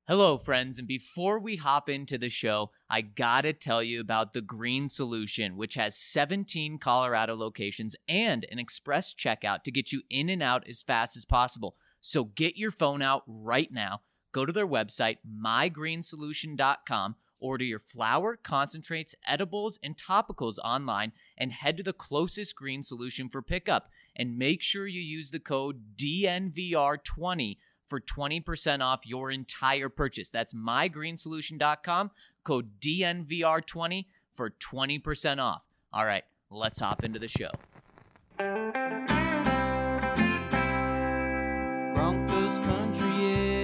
Hello, friends, and before we hop into the show, I gotta tell you about The Green Solution, which has 17 Colorado locations and an express checkout to get you in and out as fast as possible. So get your phone out right now, go to their website, mygreensolution.com, order your flower, concentrates, edibles, and topicals online, and head to the closest Green Solution for pickup. And make sure you use the code DNVR20 for 20% off your entire purchase. That's mygreensolution.com, code DNVR20 for 20% off. All right, let's hop into the show. Broncos country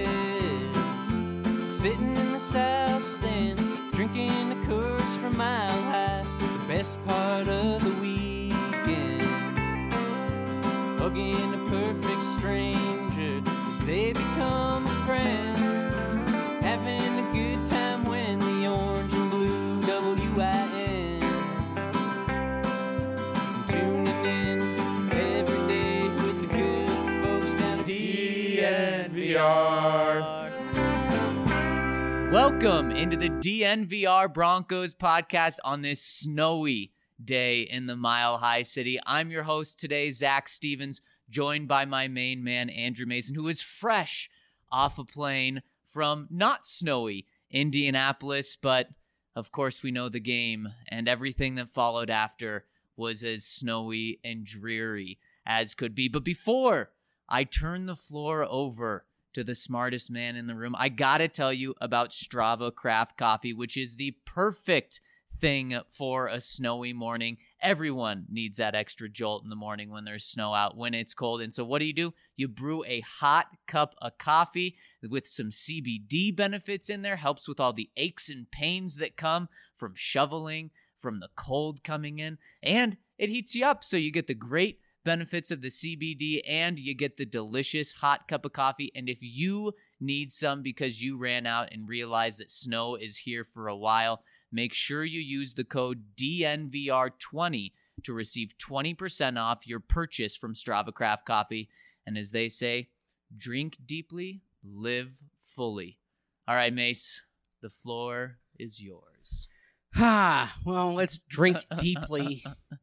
is sitting in the south stands, drinking the Coors from Mile High, the best part of the weekend, hugging a perfect stranger. They become a friend, having a good time when the orange and blue WIN. Tuning in every day with the good folks down at DNVR. Welcome into the DNVR Broncos podcast on this snowy day in the Mile High City. I'm your host today, Zach Stevens, joined by my main man, Andrew Mason, who is fresh off a plane from not snowy Indianapolis, but of course we know the game and everything that followed after was as snowy and dreary as could be. But before I turn the floor over to the smartest man in the room, I gotta tell you about Strava Craft Coffee, which is the perfect thing for a snowy morning. Everyone needs that extra jolt in the morning when there's snow out, when it's cold. And so what do? You brew a hot cup of coffee with some CBD benefits in there, helps with all the aches and pains that come from shoveling, from the cold coming in, and it heats you up. So you get the great benefits of the CBD and you get the delicious hot cup of coffee. And if you need some because you ran out and realized that snow is here for a while, make sure you use the code DNVR20 to receive 20% off your purchase from Strava Craft Coffee. And as they say, drink deeply, live fully. All right, Mace, the floor is yours. Well, let's drink deeply.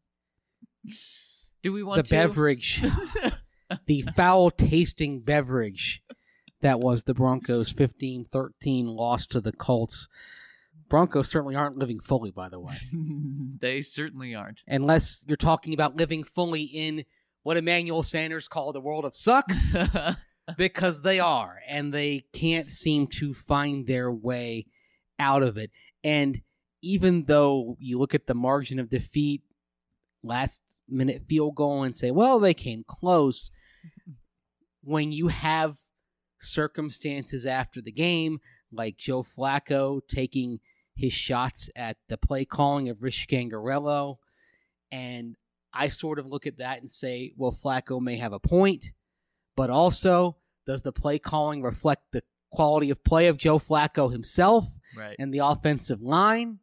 Do we want the beverage, the foul-tasting beverage that was the Broncos' 15-13 loss to the Colts. Broncos certainly aren't living fully, by the way. They certainly aren't. Unless you're talking about living fully in what Emmanuel Sanders called the world of suck, because they are, and they can't seem to find their way out of it. And even though you look at the margin of defeat, last-minute field goal, and say, well, they came close, when you have circumstances after the game, like Joe Flacco taking his shots at the play calling of Rich Scangarello, and I sort of look at that and say, well, Flacco may have a point, but also, does the play calling reflect the quality of play of Joe Flacco himself and the offensive line?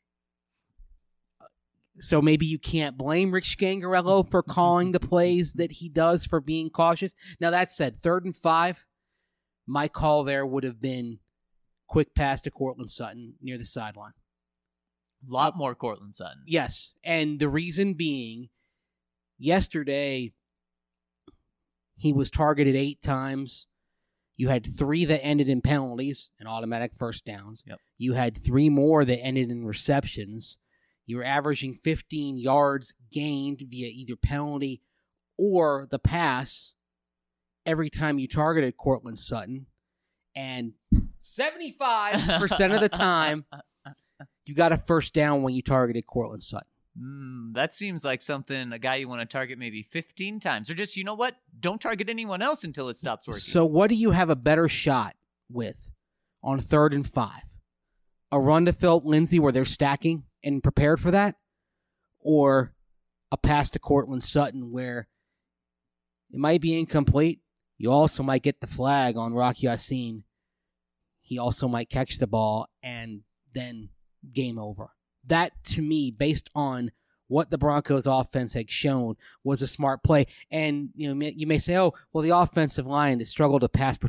So maybe you can't blame Rich Scangarello for calling the plays that he does, for being cautious. Now, that said, 3rd and 5, my call there would have been quick pass to Courtland Sutton near the sideline. A lot more Courtland Sutton. Yes, and the reason being, yesterday, he was targeted 8 times. You had 3 that ended in penalties and automatic first downs. Yep. You had 3 more that ended in receptions. You were averaging 15 yards gained via either penalty or the pass every time you targeted Courtland Sutton. And 75% of the time, you got a first down when you targeted Courtland Sutton. That seems like something, a guy you want to target maybe 15 times. Or just, you know what? Don't target anyone else until it stops working. So what do you have a better shot with on 3rd and 5? A run to Philip Lindsay where they're stacking and prepared for that? Or a pass to Courtland Sutton where it might be incomplete? You also might get the flag on Rock Ya-Sin. He also might catch the ball and then game over. That, to me, based on what the Broncos offense had shown, was a smart play. And you may say, oh, well, the offensive line has struggled to pass protect.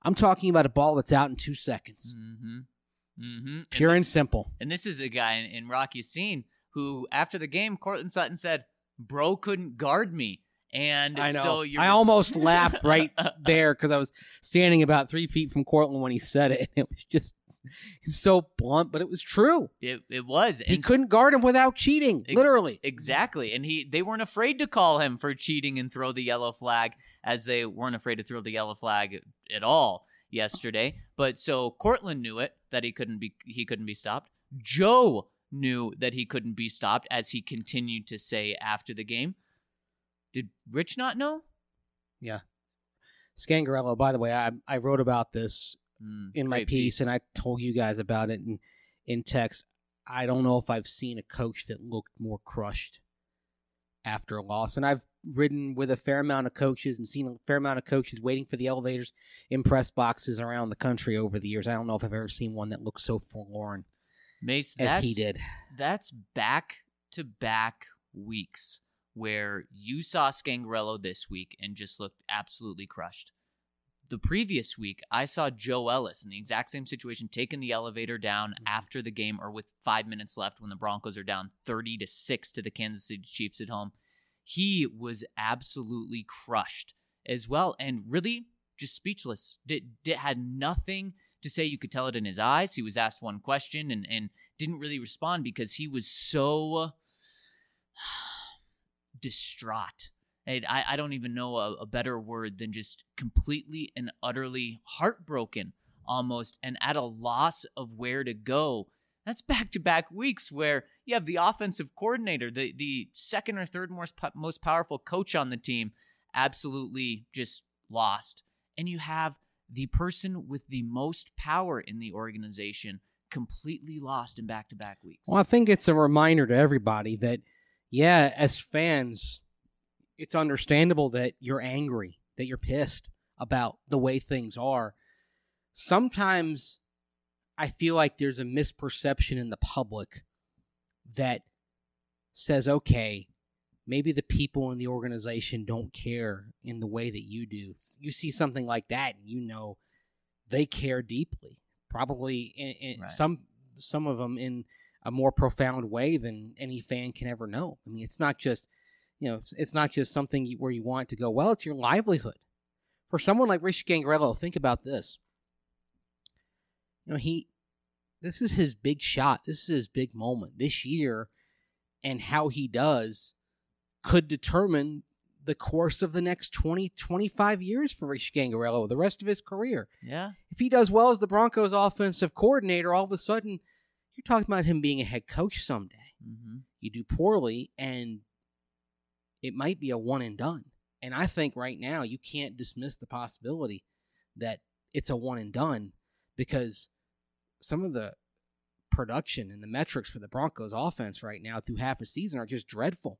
I'm talking about a ball that's out in 2 seconds. Pure and simple. And this is a guy in Rock Ya-Sin who, after the game, Cortland Sutton said, "Bro couldn't guard me." And I know. So I almost laughed right there because I was standing about 3 feet from Cortland when he said it. And it was so blunt, but it was true. It was. He couldn't guard him without cheating, literally. Exactly. And they weren't afraid to call him for cheating and throw the yellow flag, as they weren't afraid to throw the yellow flag at all yesterday. But so Cortland knew it, that he couldn't be stopped. Joe knew that he couldn't be stopped, as he continued to say after the game. Did Rich not know? Yeah. Scangarello, by the way, I wrote about this in my piece, and I told you guys about it in text. I don't know if I've seen a coach that looked more crushed after a loss. And I've ridden with a fair amount of coaches and seen a fair amount of coaches waiting for the elevators in press boxes around the country over the years. I don't know if I've ever seen one that looked so forlorn Mace, as he did. That's back-to-back weeks where you saw Scangarello this week and just looked absolutely crushed. The previous week, I saw Joe Ellis in the exact same situation, taking the elevator down after the game, or with 5 minutes left when the Broncos are down 30-6 to the Kansas City Chiefs at home. He was absolutely crushed as well, and really just speechless. Had nothing to say. You could tell it in his eyes. He was asked one question and didn't really respond because he was so distraught. I don't even know a better word than just completely and utterly heartbroken almost, and at a loss of where to go. That's back-to-back weeks where you have the offensive coordinator, the second or third most powerful coach on the team, absolutely just lost. And you have the person with the most power in the organization completely lost in back-to-back weeks. Well, I think it's a reminder to everybody that, yeah, as fans, it's understandable that you're angry, that you're pissed about the way things are. Sometimes I feel like there's a misperception in the public that says, okay, maybe the people in the organization don't care in the way that you do. You see something like that and you know they care deeply, probably in right. some of them in a more profound way than any fan can ever know. I mean, it's not just, it's not just something where you want to go, well, it's your livelihood. For someone like Rich Scangarello, think about this. This is his big shot. This is his big moment this year, and how he does could determine the course of the next 20, 25 years for Rich Scangarello, the rest of his career. Yeah. If he does well as the Broncos offensive coordinator, all of a sudden, you're talking about him being a head coach someday. Mm-hmm. You do poorly, and it might be a one and done. And I think right now you can't dismiss the possibility that it's a one and done, because some of the production and the metrics for the Broncos offense right now through half a season are just dreadful.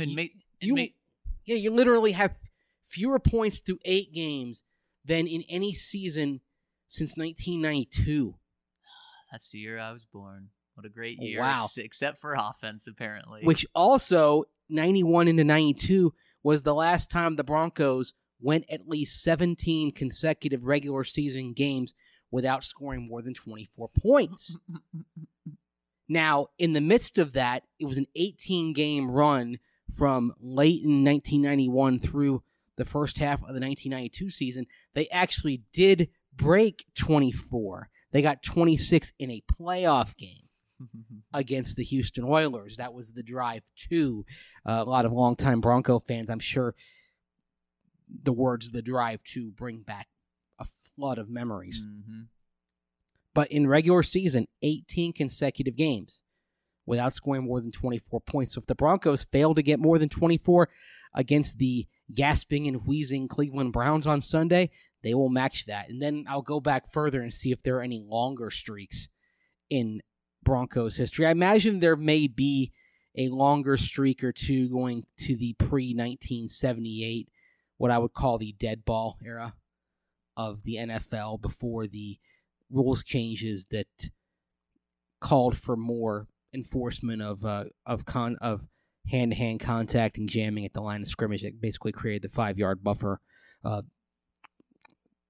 You literally have fewer points through 8 games than in any season since 1992. That's the year I was born. What a great year. Wow. Except for offense, apparently. Which also, 91 into 92, was the last time the Broncos went at least 17 consecutive regular season games without scoring more than 24 points. Now, in the midst of that, it was an 18-game run from late in 1991 through the first half of the 1992 season. They actually did break 24. They got 26 in a playoff game against the Houston Oilers. That was the drive to. A lot of longtime Bronco fans, I'm sure the words "the drive to" bring back a flood of memories. Mm-hmm. But in regular season, 18 consecutive games without scoring more than 24 points. So if the Broncos fail to get more than 24 against the gasping and wheezing Cleveland Browns on Sunday, they will match that. And then I'll go back further and see if there are any longer streaks in Broncos history. I imagine there may be a longer streak or two going to the pre-1978, what I would call the dead ball era of the NFL, before the rules changes that called for more enforcement of hand-to-hand contact and jamming at the line of scrimmage that basically created the 5-yard buffer.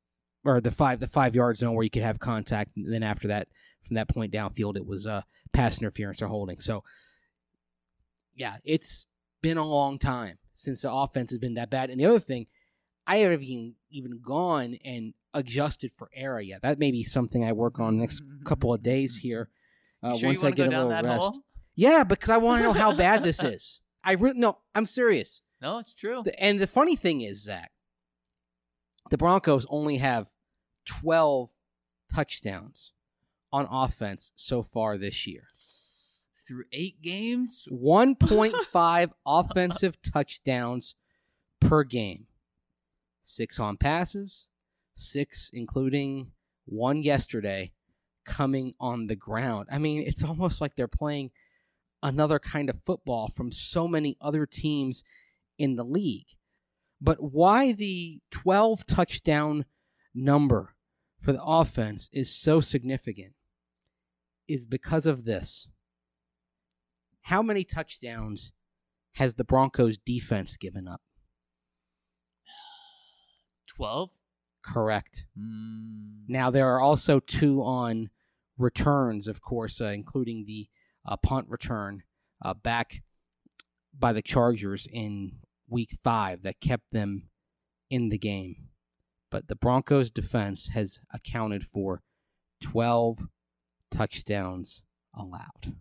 or the 5-yard zone where you could have contact. And then after that, from that point downfield, it was pass interference or holding. So, yeah, it's been a long time since the offense has been that bad. And the other thing, I haven't even gone and adjusted for area. That may be something I work on next couple of days here. Sure once you I get go a down little that rest. hole? Yeah, because I want to know how bad this is. No, I'm serious. No, it's true. And the funny thing is, Zach, the Broncos only have 12 touchdowns on offense so far this year. Through 8 games? 1.5 offensive touchdowns per game. 6 on passes, 6 including 1 yesterday, coming on the ground. I mean, it's almost like they're playing another kind of football from so many other teams in the league. But why the 12 touchdown number for the offense is so significant is because of this. How many touchdowns has the Broncos defense given up? 12? Correct. Now, there are also 2 on returns, of course, including the punt return back by the Chargers in Week 5 that kept them in the game. But the Broncos' defense has accounted for 12 touchdowns allowed.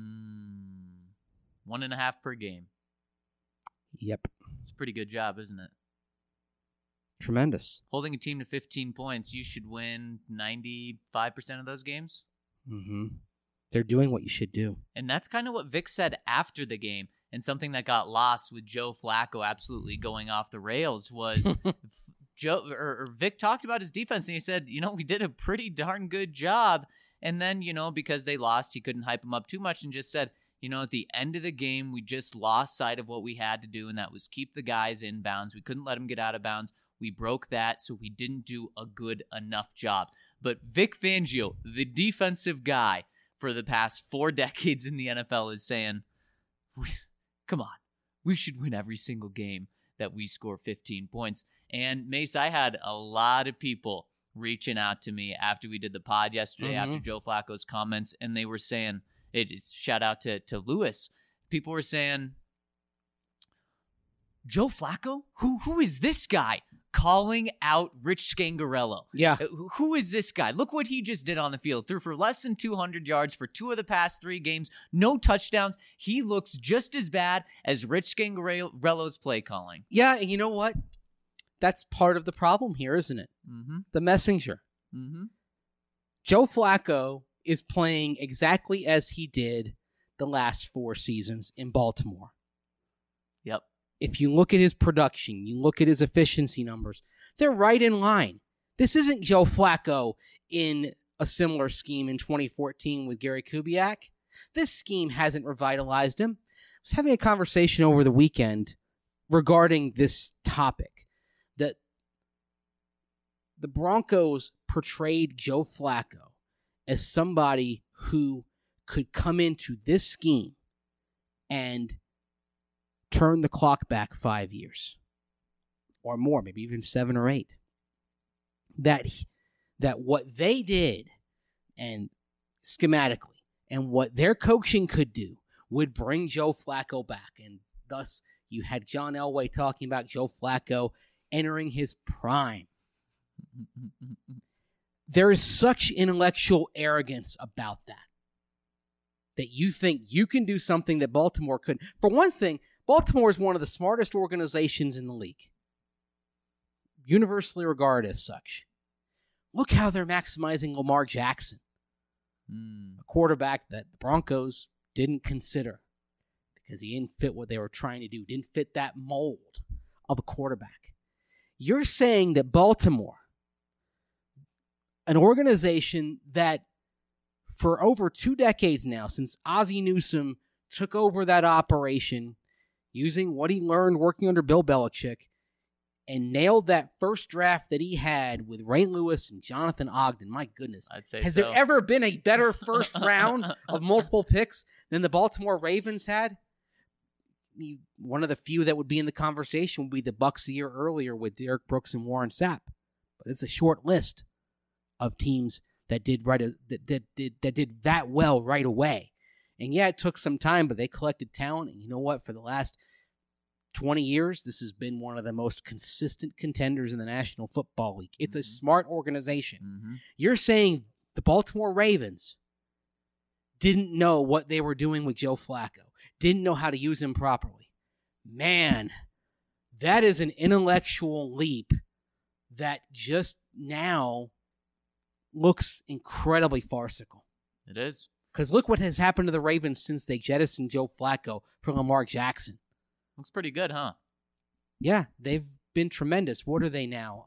1.5 per game. Yep. It's a pretty good job, isn't it? Tremendous. Holding a team to 15 points, you should win 95% of those games. Mm-hmm. They're doing what you should do. And that's kind of what Vic said after the game. And something that got lost with Joe Flacco absolutely going off the rails was Vic talked about his defense, and he said, we did a pretty darn good job. And then, because they lost, he couldn't hype them up too much and just said, at the end of the game, we just lost sight of what we had to do, and that was keep the guys in bounds. We couldn't let them get out of bounds. We broke that, so we didn't do a good enough job. But Vic Fangio, the defensive guy for the past 4 decades in the NFL, is saying, come on, we should win every single game that we score 15 points. And Mace, I had a lot of people reaching out to me after we did the pod yesterday, after Joe Flacco's comments, and they were saying, shout out to Lewis. People were saying, Joe Flacco? Who is this guy calling out Rich Scangarello? Yeah. Who is this guy? Look what he just did on the field. Threw for less than 200 yards for 2 of the past 3 games. No touchdowns. He looks just as bad as Rich Scangarello's play calling. Yeah, and you know what? That's part of the problem here, isn't it? Mm-hmm. The messenger. Mm-hmm. Joe Flacco is playing exactly as he did the last 4 seasons in Baltimore. Yep. If you look at his production, you look at his efficiency numbers, they're right in line. This isn't Joe Flacco in a similar scheme in 2014 with Gary Kubiak. This scheme hasn't revitalized him. I was having a conversation over the weekend regarding this topic, that the Broncos portrayed Joe Flacco as somebody who could come into this scheme and turn the clock back 5 years or more, maybe even 7 or 8. That what they did and schematically and what their coaching could do would bring Joe Flacco back. And thus you had John Elway talking about Joe Flacco entering his prime. There is such intellectual arrogance about that you think you can do something that Baltimore couldn't. For one thing, Baltimore is one of the smartest organizations in the league, universally regarded as such. Look how they're maximizing Lamar Jackson, a quarterback that the Broncos didn't consider because he didn't fit what they were trying to do, didn't fit that mold of a quarterback. You're saying that Baltimore, an organization that for over 2 decades now, since Ozzie Newsome took over that operation, using what he learned working under Bill Belichick, and nailed that first draft that he had with Ray Lewis and Jonathan Ogden. My goodness. I'd say Has so. there ever been a better first round of multiple picks than the Baltimore Ravens had? One of the few that would be in the conversation would be the Bucs a year earlier with Derek Brooks and Warren Sapp. It's a short list of teams that did that well right away. And yeah, it took some time, but they collected talent. And you know what? For the last 20 years, this has been one of the most consistent contenders in the National Football League. It's a smart organization. Mm-hmm. You're saying the Baltimore Ravens didn't know what they were doing with Joe Flacco, didn't know how to use him properly. Man, that is an intellectual leap that just now looks incredibly farcical. It is. Because look what has happened to the Ravens since they jettisoned Joe Flacco for Lamar Jackson. Looks pretty good, huh? Yeah, they've been tremendous. What are they now?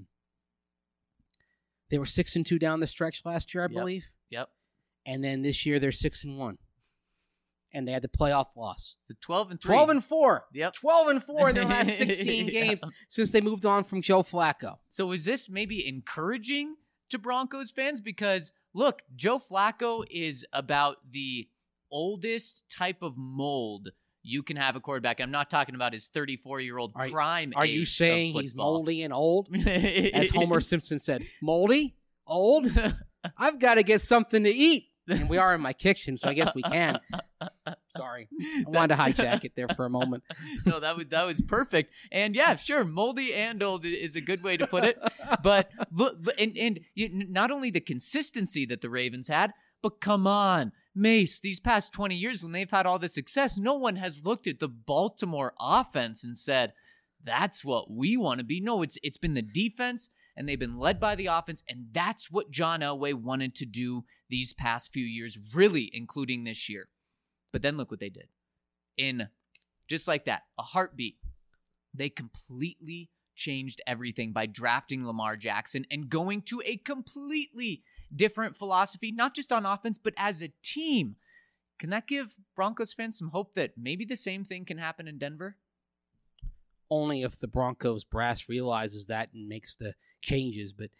They were 6-2 down the stretch last year, I believe. Yep. And then this year they're 6-1. And they had the playoff loss. So 12-3. 12-4. Yep. 12-4 in their last 16 Yeah. games since they moved on from Joe Flacco. So is this maybe encouraging to Broncos fans? Because, look, Joe Flacco is about the oldest type of mold you can have a quarterback. I'm not talking about his 34-year-old prime Are age you saying of he's football. moldy and old? As Homer Simpson said, moldy? Old? I've got to get something to eat. And we are in my kitchen, so I guess we can. Sorry. I wanted to hijack it there for a moment. No, that was perfect. And yeah, sure, moldy and old is a good way to put it. But look, and not only the consistency that the Ravens had, but come on, Mace, these past 20 years when they've had all this success, no one has looked at the Baltimore offense and said, that's what we want to be. No, it's been the defense, and they've been led by the offense, and that's what John Elway wanted to do these past few years, really including this year. But then look what they did. In just like that, a heartbeat, they completely changed everything by drafting Lamar Jackson and going to a completely different philosophy, not just on offense, but as a team. Can that give Broncos fans some hope that maybe the same thing can happen in Denver? Only if the Broncos brass realizes that and makes the changes, but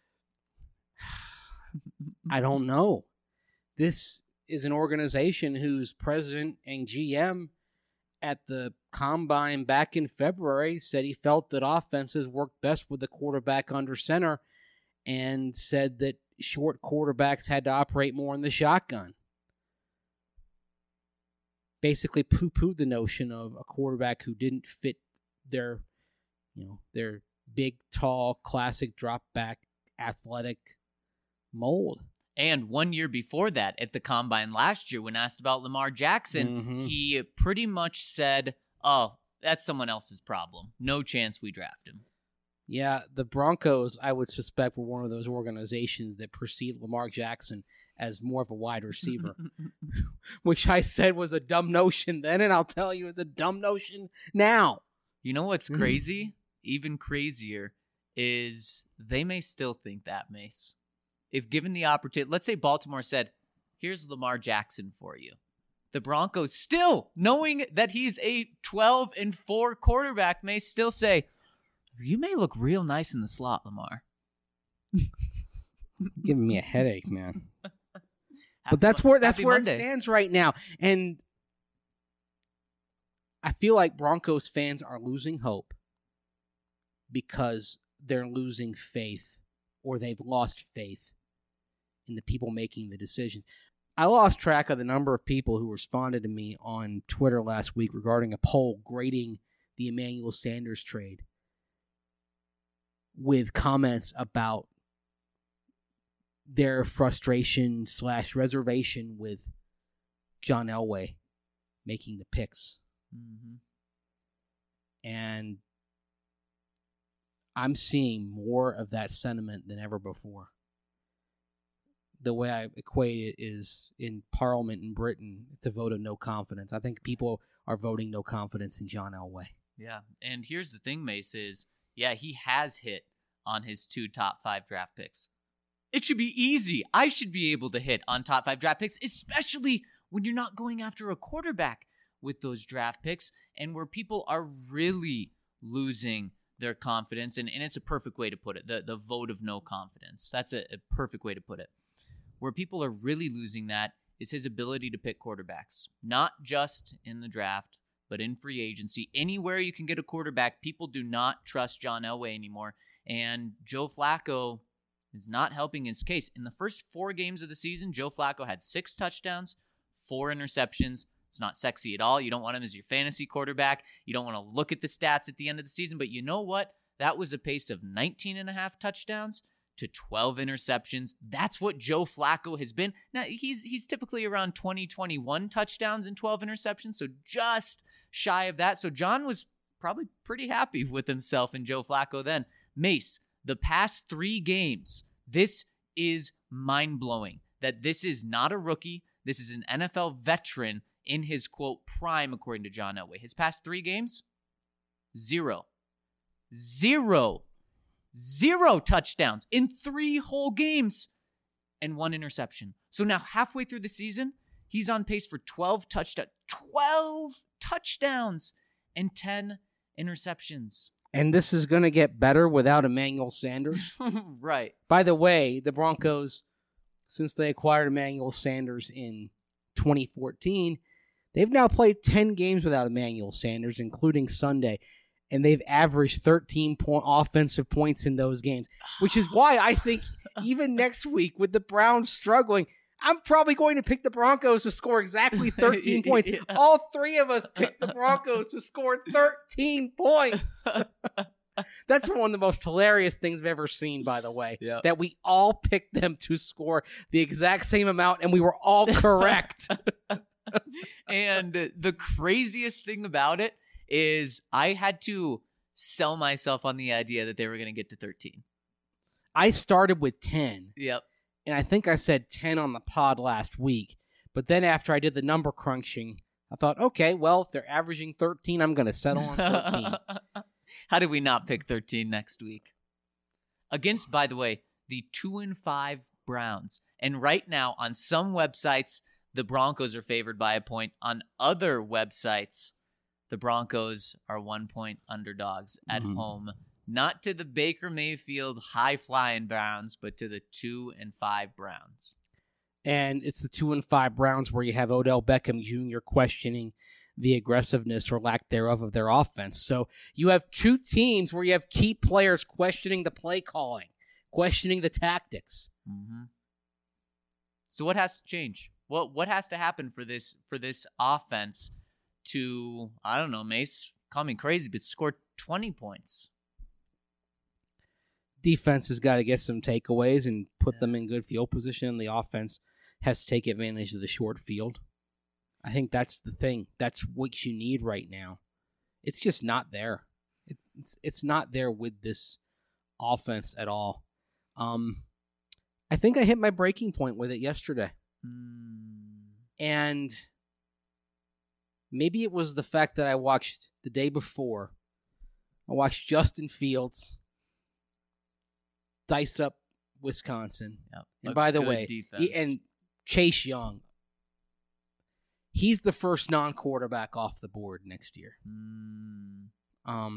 I don't know. This is an organization whose president and GM at the Combine back in February said he felt that offenses worked best with the quarterback under center and said that short quarterbacks had to operate more in the shotgun. Basically poo-pooed the notion of a quarterback who didn't fit their big, tall, classic drop-back, athletic mold. And 1 year before that, at the Combine last year, when asked about Lamar Jackson, he pretty much said, oh, that's someone else's problem. No chance we draft him. Yeah, the Broncos, I would suspect, were one of those organizations that perceived Lamar Jackson as more of a wide receiver, which I said was a dumb notion then, and I'll tell you it's a dumb notion now. You know what's crazy? Even crazier is they may still think that, Mace. If given the opportunity, let's say Baltimore said, here's Lamar Jackson for you. The Broncos still, knowing that he's a 12-4 quarterback, may still say, you may look real nice in the slot, Lamar. Giving me a headache, man. But that's where it Monday. stands right now. And I feel like Broncos fans are losing hope because they're losing faith, or they've lost faith in the people making the decisions. I lost track of the number of people who responded to me on Twitter last week regarding a poll grading the Emmanuel Sanders trade with comments about their frustration / reservation with John Elway making the picks. Mm-hmm. And I'm seeing more of that sentiment than ever before. The way I equate it is in Parliament in Britain, it's a vote of no confidence. I think people are voting no confidence in John Elway. Yeah, and here's the thing, Mace, is, yeah, he has hit on his 2 top 5 draft picks. It should be easy. I should be able to hit on top 5 draft picks, especially when you're not going after a quarterback with those draft picks and where people are really losing their confidence. And it's a perfect way to put it, the vote of no confidence. That's a perfect way to put it. Where people are really losing that is his ability to pick quarterbacks, not just in the draft, but in free agency, anywhere you can get a quarterback, people do not trust John Elway anymore. And Joe Flacco is not helping his case. In the first 4 games of the season, Joe Flacco had 6 touchdowns, 4 interceptions. It's not sexy at all. You don't want him as your fantasy quarterback. You don't want to look at the stats at the end of the season. But you know what? That was a pace of 19.5 touchdowns to 12 interceptions. That's what Joe Flacco has been. Now, he's typically around 21 touchdowns and 12 interceptions, so just shy of that. So John was probably pretty happy with himself and Joe Flacco then. Mace, the past 3 games, this is mind-blowing that this is not a rookie. This is an NFL veteran in his, quote, prime, according to John Elway. His past 3 games, 0 touchdowns in 3 whole games and 1 interception. So now halfway through the season, he's on pace for 12 touchdowns and 10 interceptions. And this is going to get better without Emmanuel Sanders. Right. By the way, the Broncos, since they acquired Emmanuel Sanders in 2014, they've now played 10 games without Emmanuel Sanders, including Sunday. And they've averaged 13 offensive points in those games, which is why I think even next week with the Browns struggling, I'm probably going to pick the Broncos to score exactly 13 points. Yeah. All 3 of us picked the Broncos to score 13 points. That's one of the most hilarious things I've ever seen, by the way, Yep. that we all picked them to score the exact same amount, and we were all correct. And the craziest thing about it is I had to sell myself on the idea that they were going to get to 13. I started with 10. Yep. And I think I said 10 on the pod last week. But then after I did the number crunching, I thought, okay, well, if they're averaging 13, I'm going to settle on 13. How did we not pick 13 next week? Against, by the way, the 2-5 Browns. And right now, on some websites, the Broncos are favored by a point. On other websites, the Broncos are 1-point underdogs at home. Not to the Baker Mayfield high-flying Browns, but to the 2-5 Browns. And it's the 2-5 Browns where you have Odell Beckham Jr. questioning the aggressiveness or lack thereof of their offense. So you have 2 teams where you have key players questioning the play calling, questioning the tactics. Mm-hmm. So what has to change? What has to happen for this offense to, I don't know, Mace, call me crazy, but score 20 points? Defense has got to get some takeaways and put them in good field position. The offense has to take advantage of the short field. I think that's the thing. That's what you need right now. It's just not there. It's not there with this offense at all. I think I hit my breaking point with it yesterday. And maybe it was the fact that I watched the day before. I watched Justin Fields dice up Wisconsin. Yep. And by the way, and Chase Young, he's the first non-quarterback off the board next year. I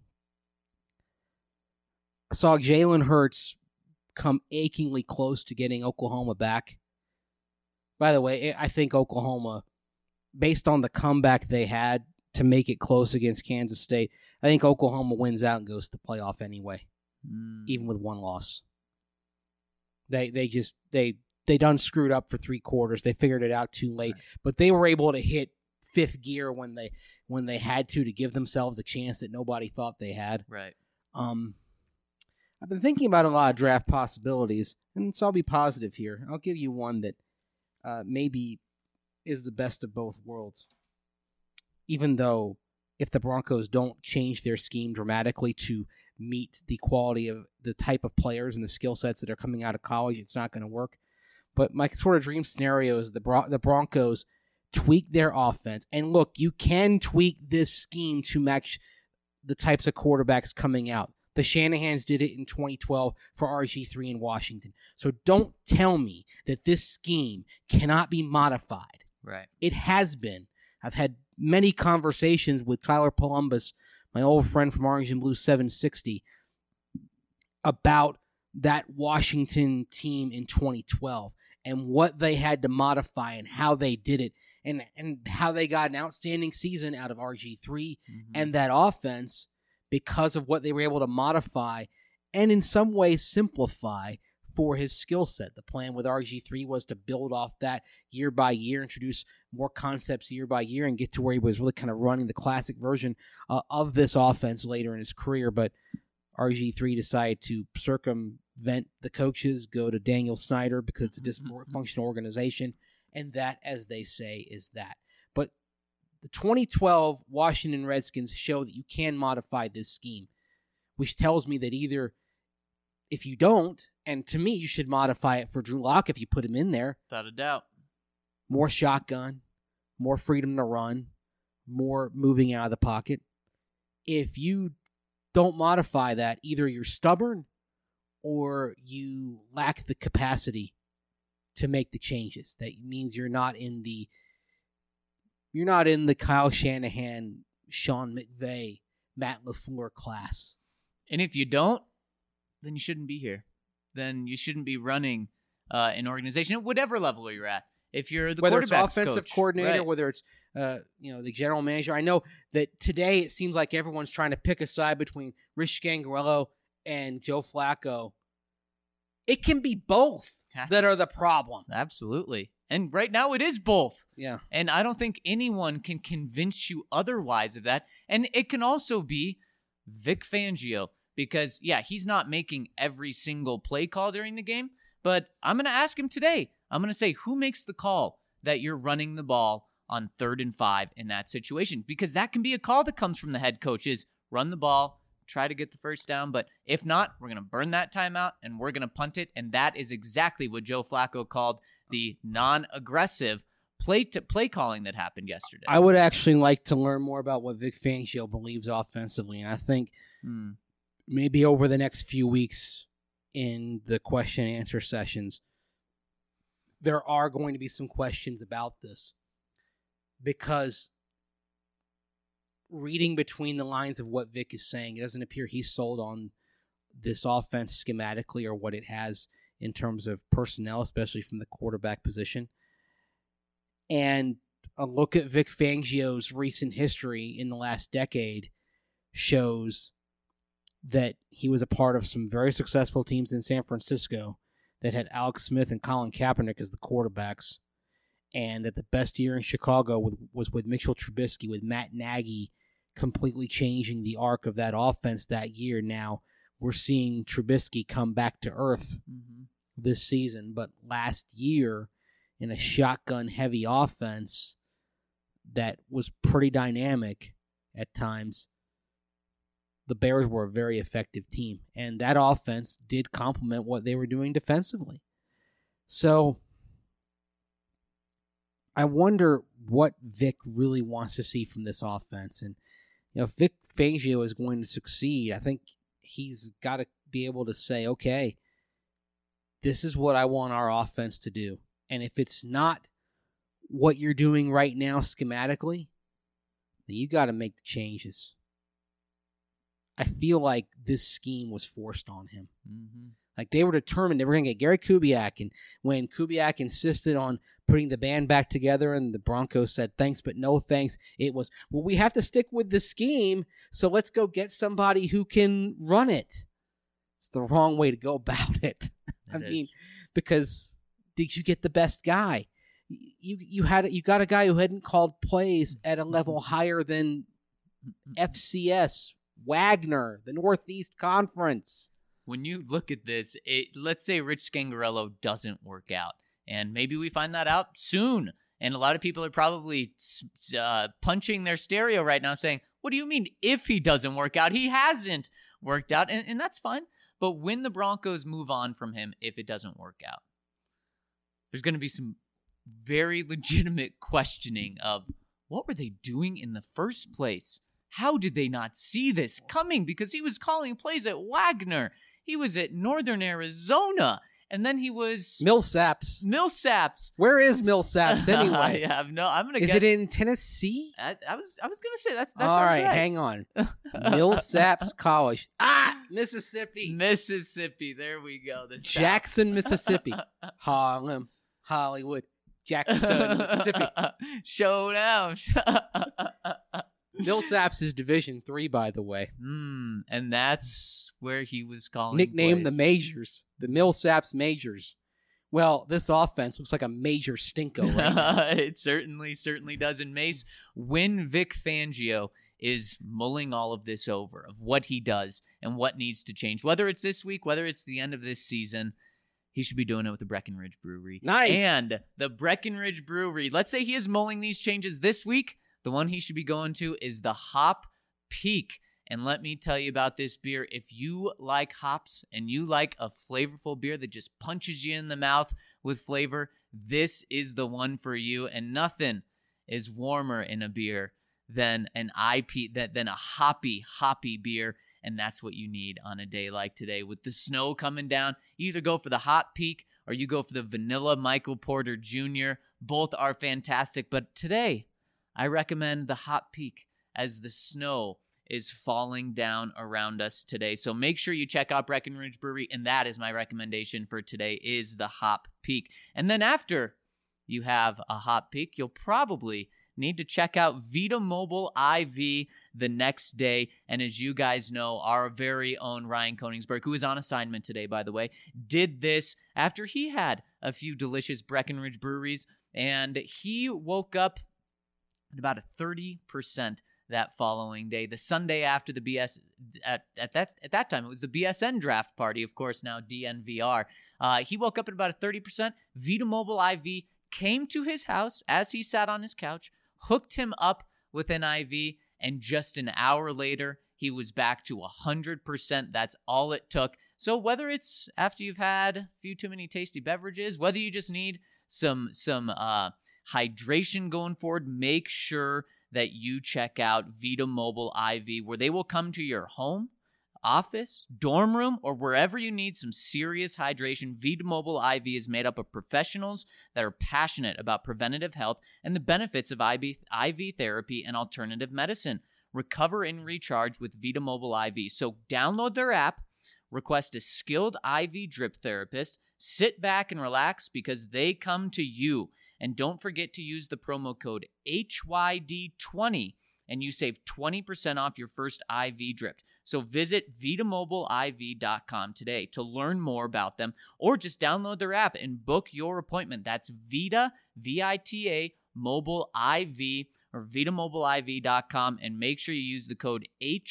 saw Jalen Hurts come achingly close to getting Oklahoma back. By the way, I think Oklahoma, based on the comeback they had to make it close against Kansas State, I think Oklahoma wins out and goes to the playoff anyway, even with 1 loss. They done screwed up for 3 quarters. They figured it out too late, but they were able to hit 5th gear when they had to give themselves a chance that nobody thought they had. Right. I've been thinking about a lot of draft possibilities, and so I'll be positive here. I'll give you one that maybe is the best of both worlds. Even though if the Broncos don't change their scheme dramatically to meet the quality of the type of players and the skill sets that are coming out of college, it's not going to work. But my sort of dream scenario is the Broncos tweak their offense. And look, you can tweak this scheme to match the types of quarterbacks coming out. The Shanahans did it in 2012 for RG3 in Washington. So don't tell me that this scheme cannot be modified. Right. It has been. I've had many conversations with Tyler Columbus, my old friend from Orange and Blue 760, about that Washington team in 2012 and what they had to modify and how they did it and how they got an outstanding season out of RG3 and that offense because of what they were able to modify and in some ways simplify for his skill set. The plan with RG3 was to build off that year by year, introduce more concepts year by year, and get to where he was really kind of running the classic version of this offense later in his career. But RG3 decided to circumvent the coaches, go to Daniel Snyder because it's a dysfunctional organization, and that, as they say, is that. But the 2012 Washington Redskins show that you can modify this scheme, which tells me that either if you don't, and to me, you should modify it for Drew Lock if you put him in there. Without a doubt. More shotgun, more freedom to run, more moving out of the pocket. If you don't modify that, either you're stubborn or you lack the capacity to make the changes. That means you're not in the Kyle Shanahan, Sean McVay, Matt LaFleur class. And if you don't, then you shouldn't be here. Then you shouldn't be running an organization at whatever level you're at. If you're the quarterback's whether it's offensive coach, coordinator, right. whether it's the general manager. I know that today it seems like everyone's trying to pick a side between Rich Scangarello and Joe Flacco. It can be both that are the problem. Absolutely. And right now it is both. Yeah. And I don't think anyone can convince you otherwise of that. And it can also be Vic Fangio because, yeah, he's not making every single play call during the game. But I'm going to ask him today. I'm going to say, who makes the call that you're running the ball on 3rd and 5 in that situation? Because that can be a call that comes from the head coach is run the ball, try to get the first down. But if not, we're going to burn that timeout and we're going to punt it. And that is exactly what Joe Flacco called the non-aggressive play calling that happened yesterday. I would actually like to learn more about what Vic Fangio believes offensively. And I think maybe over the next few weeks in the question and answer sessions, there are going to be some questions about this because reading between the lines of what Vic is saying, it doesn't appear he's sold on this offense schematically or what it has in terms of personnel, especially from the quarterback position. And a look at Vic Fangio's recent history in the last decade shows that he was a part of some very successful teams in San Francisco that had Alex Smith and Colin Kaepernick as the quarterbacks, and that the best year in Chicago was with Mitchell Trubisky, with Matt Nagy completely changing the arc of that offense that year. Now we're seeing Trubisky come back to earth this season, but last year in a shotgun-heavy offense that was pretty dynamic at times, the Bears were a very effective team, and that offense did complement what they were doing defensively. So I wonder what Vic really wants to see from this offense. And if Vic Fangio is going to succeed, I think he's got to be able to say, okay, this is what I want our offense to do. And if it's not what you're doing right now schematically, then you got to make the changes. I feel like this scheme was forced on him. Like they were determined they were going to get Gary Kubiak, and when Kubiak insisted on putting the band back together and the Broncos said thanks but no thanks, it was, well, we have to stick with the scheme, so let's go get somebody who can run it. It's the wrong way to go about it. I mean, because did you get the best guy? You got a guy who hadn't called plays at a level higher than FCS, Wagner, the Northeast Conference. When you look at this, let's say Rich Scangarello doesn't work out, and maybe we find that out soon. And a lot of people are probably punching their stereo right now saying, what do you mean if he doesn't work out? He hasn't worked out, and that's fine. But when the Broncos move on from him, if it doesn't work out, there's going to be some very legitimate questioning of what were they doing in the first place? How did they not see this coming? Because he was calling plays at Wagner. He was at Northern Arizona. and then he was Millsaps. Millsaps. Where is Millsaps anyway? I have no. I'm gonna Is guess. it in Tennessee? I was gonna say that's All right, hang on. Millsaps College. Mississippi. Mississippi. There we go. The South. Jackson, Mississippi. Harlem, Hollywood, Jackson, Mississippi. Showdown. Millsaps is Division III, by the way. And that's where he was calling. Nicknamed the plays. Majors, the Millsaps Majors. Well, this offense looks like a major stinko right now. It certainly does. And Mace, when Vic Fangio is mulling all of this over of what he does and what needs to change, whether it's this week, whether it's the end of this season, he should be doing it with the Breckenridge Brewery. Nice. And the Breckenridge Brewery, let's say he is mulling these changes this week, the one he should be going to is the Hop Peak. And let me tell you about this beer. If you like hops and you like a flavorful beer that just punches you in the mouth with flavor, this is the one for you. And nothing is warmer in a beer than than a hoppy beer. And that's what you need on a day like today. With the snow coming down, you either go for the Hop Peak or you go for the Vanilla Michael Porter Jr. Both are fantastic. But today, I recommend the Hop Peak as the snow is falling down around us today. So make sure you check out Breckenridge Brewery, and that is my recommendation for today is the Hop Peak. And then after you have a Hop Peak, you'll probably need to check out Vita Mobile IV the next day. And as you guys know, our very own Ryan Koenigsberg, who is on assignment today, by the way, did this after he had a few delicious Breckenridge breweries, and he woke up at about a 30% that following day, the Sunday after the BS. At that time, it was the BSN draft party, of course, now DNVR. He woke up at about a 30%. Vita Mobile IV came to his house as he sat on his couch, hooked him up with an IV, and just an hour later, he was back to 100%. That's all it took. So whether it's after you've had a few too many tasty beverages, whether you just need some hydration going forward, make sure that you check out Vita Mobile IV, where they will come to your home, office, dorm room, or wherever you need some serious hydration. Vita Mobile IV is made up of professionals that are passionate about preventative health and the benefits of IV therapy and alternative medicine. Recover and recharge with Vita Mobile IV. So download their app, request a skilled IV drip therapist, sit back and relax because they come to you. And don't forget to use the promo code HYD20 and you save 20% off your first IV drip. So visit VitaMobileIV.com today to learn more about them, or just download their app and book your appointment. That's Vita, V-I-T-A, Mobile IV, or VitaMobileIV.com, and make sure you use the code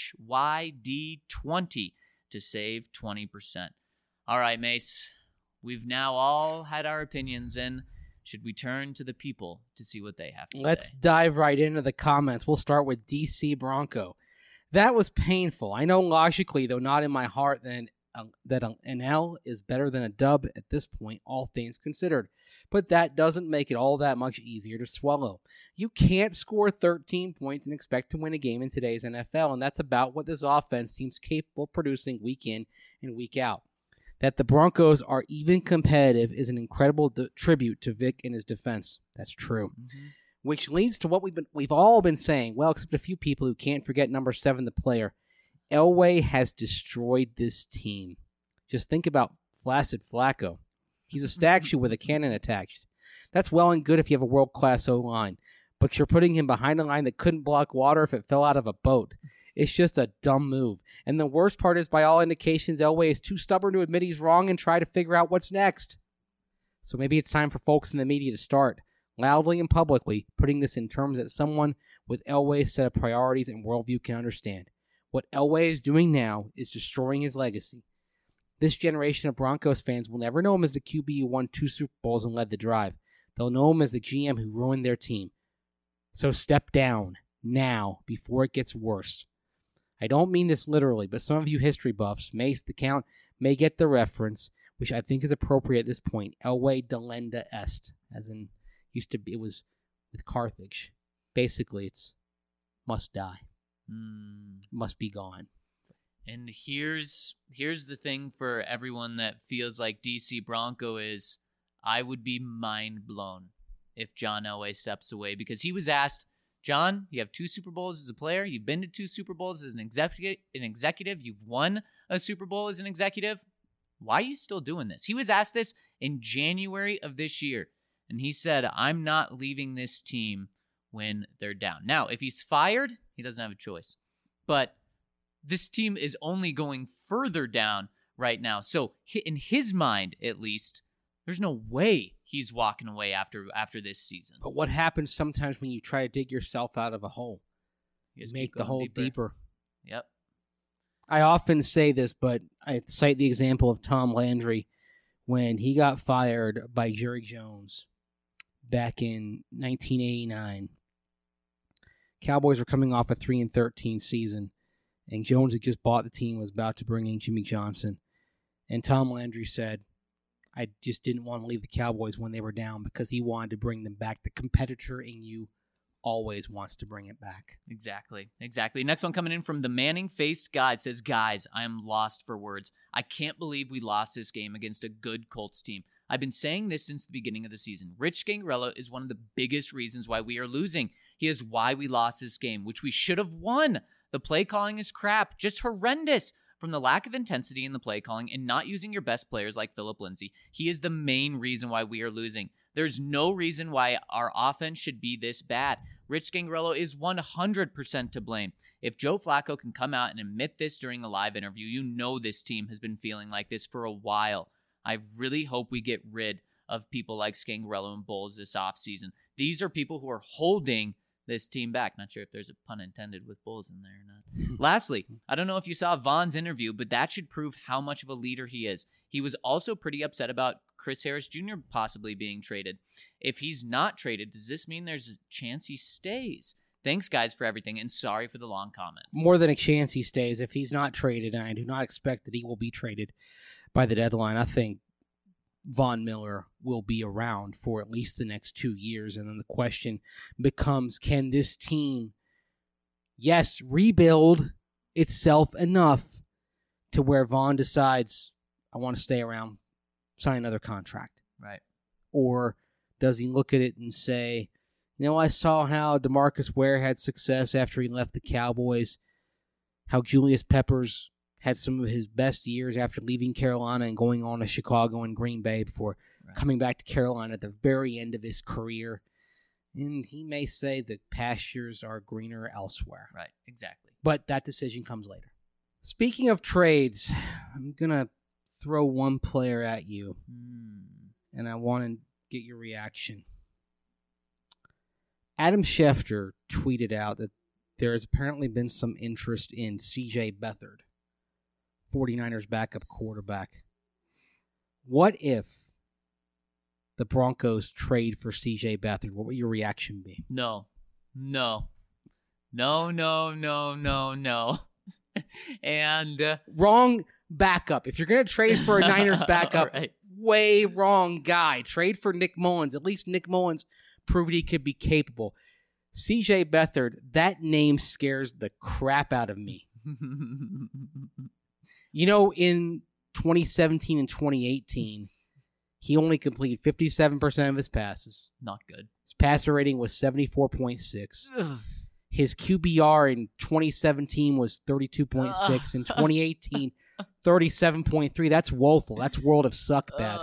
HYD20 to save 20%. All right, Mace, we've now all had our opinions in. Should we turn to the people to see what they have to say? Let's dive right into the comments. We'll start with DC Bronco. That was painful. I know logically, though not in my heart, that an L is better than a dub at this point, all things considered. But that doesn't make it all that much easier to swallow. You can't score 13 points and expect to win a game in today's NFL, and that's about what this offense seems capable of producing week in and week out. That the Broncos are even competitive is an incredible tribute to Vic and his defense. That's true. Mm-hmm. Which leads to what we've all been saying, well, except a few people who can't forget number 7, the player. Elway has destroyed this team. Just think about Flaccid Flacco. He's a statue with a cannon attached. That's well and good if you have a world-class O-line, but you're putting him behind a line that couldn't block water if it fell out of a boat. It's just a dumb move. And the worst part is, by all indications, Elway is too stubborn to admit he's wrong and try to figure out what's next. So maybe it's time for folks in the media to start, loudly and publicly, putting this in terms that someone with Elway's set of priorities and worldview can understand. What Elway is doing now is destroying his legacy. This generation of Broncos fans will never know him as the QB who won 2 Super Bowls and led the drive. They'll know him as the GM who ruined their team. So step down, now, before it gets worse. I don't mean this literally, but some of you history buffs, Mace, the Count, may get the reference, which I think is appropriate at this point. Elway delenda est, as in, used to be, it was with Carthage. Basically, it's must die. Must be gone. And here's the thing for everyone that feels like DC Bronco is, I would be mind blown if John Elway steps away, because he was asked, John, you have 2 Super Bowls as a player. You've been to 2 Super Bowls as an executive. You've won a Super Bowl as an executive. Why are you still doing this? He was asked this in January of this year, and he said, I'm not leaving this team when they're down. Now, if he's fired, he doesn't have a choice. But this team is only going further down right now. So in his mind, at least, there's no way he's walking away after this season. But what happens sometimes when you try to dig yourself out of a hole? You make the hole deeper. Yep. I often say this, but I cite the example of Tom Landry when he got fired by Jerry Jones back in 1989. Cowboys were coming off a 3-13 season, and Jones had just bought the team, was about to bring in Jimmy Johnson. And Tom Landry said, I just didn't want to leave the Cowboys when they were down because he wanted to bring them back. The competitor in you always wants to bring it back. Exactly. Next one coming in from the Manning-faced guy. It says, guys, I am lost for words. I can't believe we lost this game against a good Colts team. I've been saying this since the beginning of the season. Rich Gangarello is one of the biggest reasons why we are losing. He is why we lost this game, which we should have won. The play calling is crap, just horrendous. From the lack of intensity in the play calling and not using your best players like Phillip Lindsay, he is the main reason why we are losing. There's no reason why our offense should be this bad. Rich Gangarello is 100% to blame. If Joe Flacco can come out and admit this during a live interview, you know this team has been feeling like this for a while. I really hope we get rid of people like Scangarello and Bowles this offseason. These are people who are holding this team back. Not sure if there's a pun intended with Bulls in there or not. Lastly, I don't know if you saw Von's interview, but that should prove how much of a leader he is. He was also pretty upset about Chris Harris Jr. possibly being traded. If he's not traded, does this mean there's a chance he stays? Thanks, guys, for everything, and sorry for the long comment. More than a chance he stays. If he's not traded, and I do not expect that he will be traded by the deadline, I think Von Miller will be around for at least the next 2 years. And then the question becomes, can this team, yes, rebuild itself enough to where Von decides, I want to stay around, sign another contract? Right. Or does he look at it and say, you know, I saw how DeMarcus Ware had success after he left the Cowboys, how Julius Peppers had some of his best years after leaving Carolina and going on to Chicago and Green Bay before coming back to Carolina at the very end of his career. And he may say the pastures are greener elsewhere. Right, exactly. But that decision comes later. Speaking of trades, I'm going to throw one player at you, and I want to get your reaction. Adam Schefter tweeted out that there has apparently been some interest in C.J. Beathard, 49ers backup quarterback. What if the Broncos trade for C.J. Beathard? What would your reaction be? No. And wrong backup. If you're going to trade for a Niners backup, right. Way wrong guy. Trade for Nick Mullins. At least Nick Mullins proved he could be capable. C.J. Beathard, that name scares the crap out of me. You know, in 2017 and 2018, he only completed 57% of his passes. Not good. His passer rating was 74.6. His QBR in 2017 was 32.6. In 2018, 37.3. That's woeful. That's world of suck bad.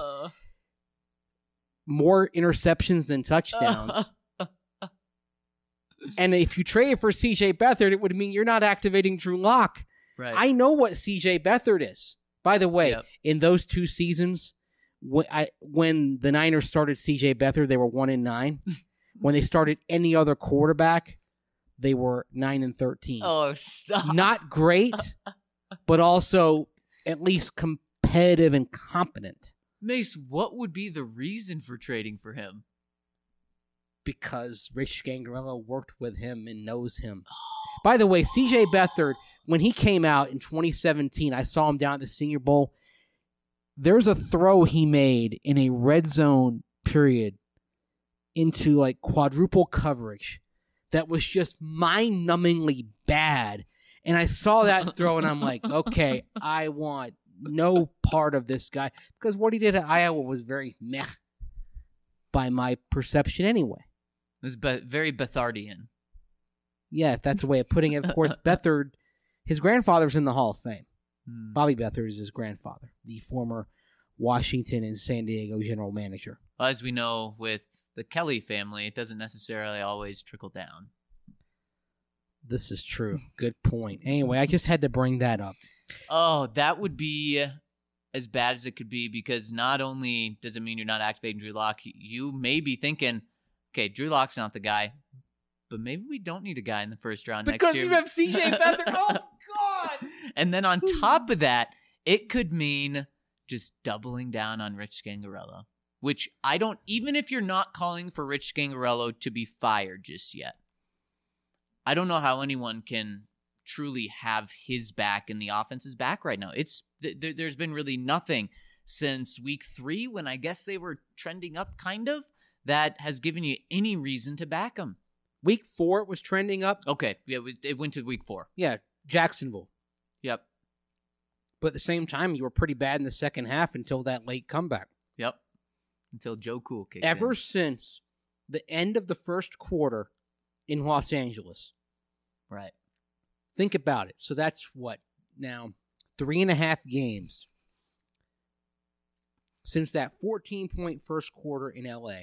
More interceptions than touchdowns. And if you trade for C.J. Beathard, it would mean you're not activating Drew Lock. Right. I know what C.J. Beathard is. By the way, in those 2 seasons, when the Niners started C.J. Beathard, they were 1-9. When they started any other quarterback, they were 9-13. Oh, stop. Not great, but also at least competitive and competent. Mace, what would be the reason for trading for him? Because Rich Gangarello worked with him and knows him. By the way, C.J. Beathard, when he came out in 2017, I saw him down at the Senior Bowl. There's a throw he made in a red zone period into like quadruple coverage that was just mind-numbingly bad. And I saw that throw, and I'm like, okay, I want no part of this guy. Because what he did at Iowa was very meh by my perception anyway. It was very Bethardian. Yeah, if that's a way of putting it. Of course, Beathard, his grandfather's in the Hall of Fame. Bobby Beathard is his grandfather, the former Washington and San Diego general manager. Well, as we know with the Kelly family, it doesn't necessarily always trickle down. This is true. Good point. Anyway, I just had to bring that up. Oh, that would be as bad as it could be, because not only does it mean you're not activating Drew Lock, you may be thinking, okay, Drew Lock's not the guy, but maybe we don't need a guy in the first round next year. Because you have CJ Beathard. Oh, God. And then on top of that, it could mean just doubling down on Rich Scangarello, which I don't, even if you're not calling for Rich Scangarello to be fired just yet, I don't know how anyone can truly have his back and the offense's back right now. There's been really nothing since week 3, when I guess they were trending up kind of, that has given you any reason to back him. Week 4, it was trending up. Okay, yeah, it went to week 4. Yeah, Jacksonville. Yep. But at the same time, you were pretty bad in the second half until that late comeback. Yep. Until Joe Cool kicked Ever in. since the end of the first quarter in Los Angeles. Right. Think about it. So that's what now? 3.5 games since that 14-point first quarter in LA.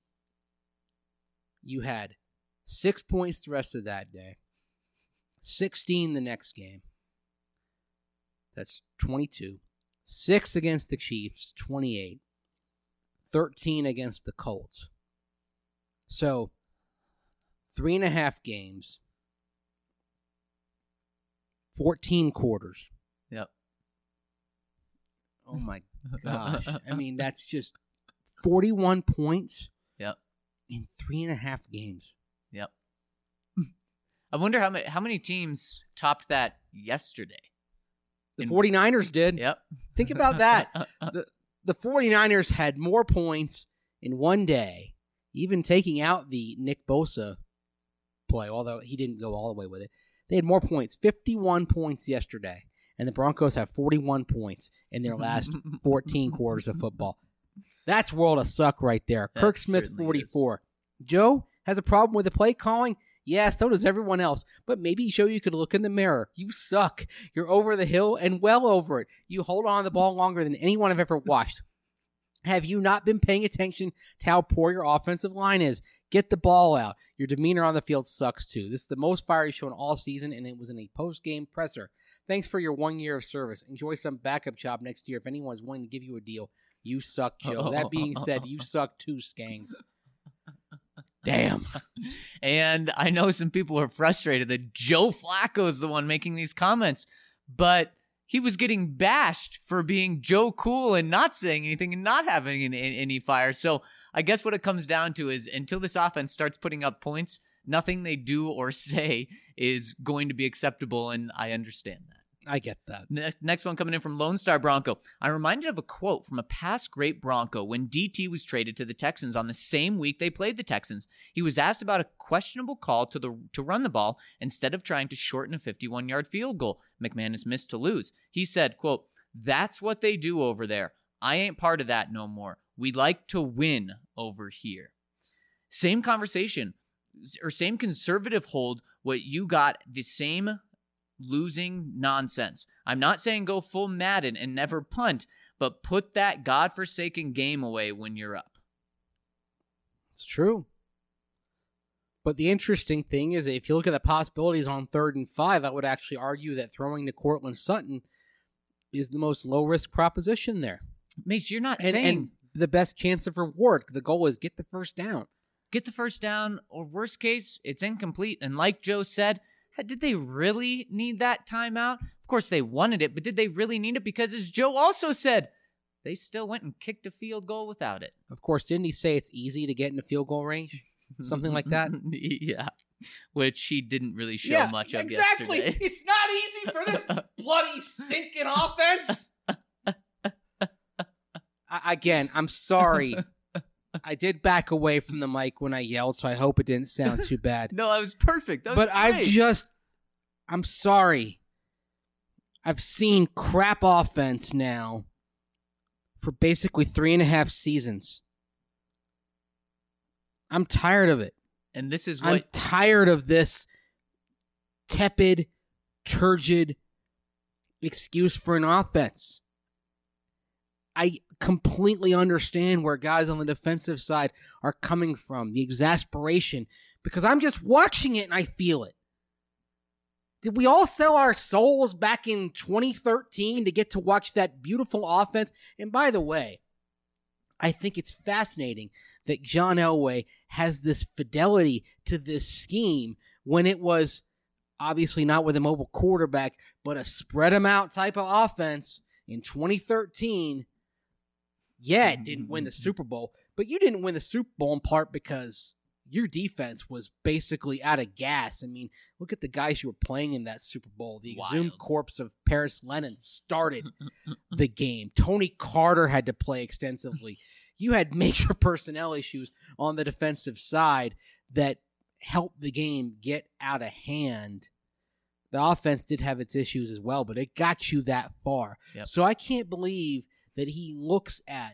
You had 6 points the rest of that day, 16 the next game. That's 22. 6 against the Chiefs, 28. 13 against the Colts. So 3.5 games. 14 quarters. Yep. Oh my gosh. I mean, that's just 41 points. Yep. In 3.5 games. Yep. I wonder how many teams topped that yesterday. The 49ers did. Yep. Think about that. The 49ers had more points in one day, even taking out the Nick Bosa play, although he didn't go all the way with it. They had more points, 51 points yesterday, and the Broncos have 41 points in their last 14 quarters of football. That's world of suck right there. That Kirk Smith, 44. Joe has a problem with the play calling? Yeah, so does everyone else. But maybe, Joe, you could look in the mirror. You suck. You're over the hill and well over it. You hold on to the ball longer than anyone I've ever watched. Have you not been paying attention to how poor your offensive line is? Get the ball out. Your demeanor on the field sucks too. This is the most fire you've shown all season, and it was in a post-game presser. Thanks for your 1 year of service. Enjoy some backup job next year if anyone's willing to give you a deal. You suck, Joe. That being said, you suck too, Skangs. Damn. And I know some people are frustrated that Joe Flacco is the one making these comments, but he was getting bashed for being Joe Cool and not saying anything and not having any fire. So I guess what it comes down to is until this offense starts putting up points, nothing they do or say is going to be acceptable, and I understand that. I get that. Next one coming in from Lone Star Bronco. I'm reminded of a quote from a past great Bronco when DT was traded to the Texans on the same week they played the Texans. He was asked about a questionable call to run the ball instead of trying to shorten a 51-yard field goal McManus missed to lose. He said, quote, "That's what they do over there. I ain't part of that no more. We like to win over here." Same conversation or same conservative hold what you got, the same losing nonsense. I'm not saying go full Madden and never punt, but put that godforsaken game away when you're up. It's true. But the interesting thing is, if you look at the possibilities on 3rd and 5, I would actually argue that throwing to Cortland Sutton is the most low-risk proposition there. Mace, you're not and saying the best chance of reward. The goal is get the first down. Get the first down, or worst case, it's incomplete. And like Joe said, did they really need that timeout? Of course they wanted it, but did they really need it? Because as Joe also said, they still went and kicked a field goal without it. Of course, didn't he say it's easy to get in a field goal range? Something like that? Yeah, which he didn't really show much of yesterday. It's not easy for this bloody stinking offense. Again, I'm sorry. I did back away from the mic when I yelled, so I hope it didn't sound too bad. No, it was perfect. That was but great. I'm sorry. I've seen crap offense now for basically 3.5 seasons. I'm tired of it. And this is I'm what tired of this tepid, turgid excuse for an offense. I completely understand where guys on the defensive side are coming from, the exasperation, because I'm just watching it and I feel it. Did we all sell our souls back in 2013 to get to watch that beautiful offense? And by the way, I think it's fascinating that John Elway has this fidelity to this scheme when it was obviously not with a mobile quarterback, but a spread them out type of offense in 2013. Yeah, it didn't win the Super Bowl, but you didn't win the Super Bowl in part because your defense was basically out of gas. I mean, look at the guys you were playing in that Super Bowl. The exhumed corpse of Paris Lennon started the game. Tony Carter had to play extensively. You had major personnel issues on the defensive side that helped the game get out of hand. The offense did have its issues as well, but it got you that far. Yep. So I can't believe that he looks at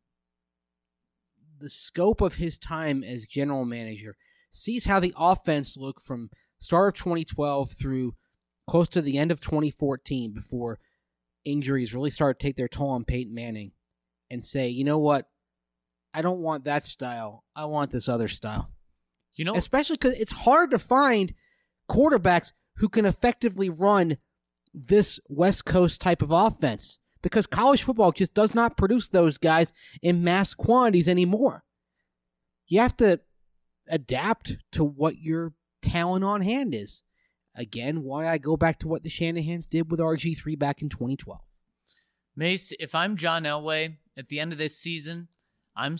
the scope of his time as general manager, sees how the offense looked from start of 2012 through close to the end of 2014 before injuries really started to take their toll on Peyton Manning, and say, you know what? I don't want that style. I want this other style. you know. Especially because it's hard to find quarterbacks who can effectively run this West Coast type of offense, because college football just does not produce those guys in mass quantities anymore. You have to adapt to what your talent on hand is. Again, why I go back to what the Shanahans did with RG3 back in 2012. Mace, if I'm John Elway at the end of this season, I'm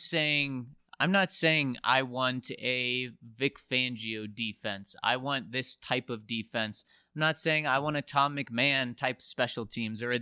not saying I want a Vic Fangio defense. I want this type of defense. I'm not saying I want a Tom McMahon type special teams or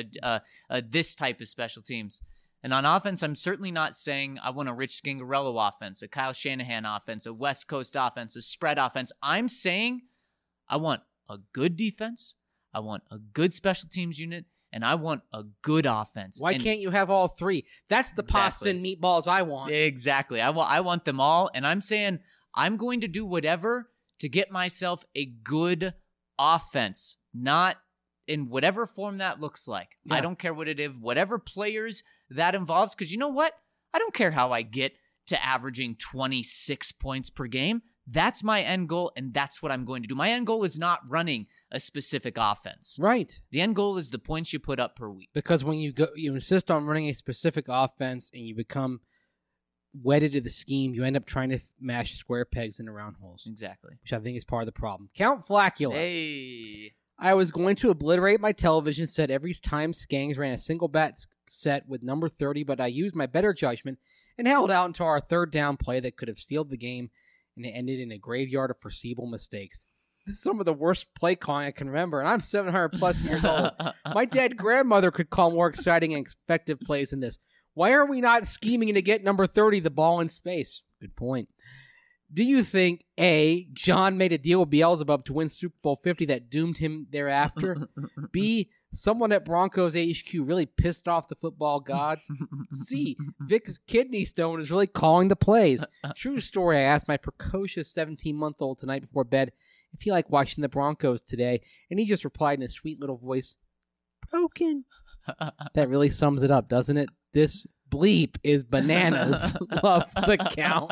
a this type of special teams. And on offense, I'm certainly not saying I want a Rich Scangarello offense, a Kyle Shanahan offense, a West Coast offense, a spread offense. I'm saying I want a good defense, I want a good special teams unit, and I want a good offense. Why can't you have all three? That's the pasta and meatballs I want. Exactly. I want them all, and I'm saying I'm going to do whatever to get myself a good offense, not in whatever form that looks like. Yeah. I don't care what it is, whatever players that involves, because you know what? I don't care how I get to averaging 26 points per game. That's my end goal, and that's what I'm going to do. My end goal is not running a specific offense. Right. The end goal is the points you put up per week. Because when you insist on running a specific offense and you become wedded to the scheme, you end up trying to mash square pegs into round holes. Exactly. Which I think is part of the problem. Count Flacula. Hey. I was going to obliterate my television set every time Skangs ran a single bat set with number 30, but I used my better judgment and held out until our third down play that could have sealed the game, and it ended in a graveyard of foreseeable mistakes. This is some of the worst play calling I can remember, and I'm 700 plus years old. My dead grandmother could call more exciting and effective plays than this. Why are we not scheming to get number 30 the ball in space? Good point. Do you think, A, John made a deal with Beelzebub to win Super Bowl 50 that doomed him thereafter? B, someone at Broncos HQ really pissed off the football gods? C, Vic's kidney stone is really calling the plays? True story, I asked my precocious 17-month-old tonight before bed if he liked watching the Broncos today, and he just replied in a sweet little voice, broken. That really sums it up, doesn't it? This bleep is bananas. Love the count.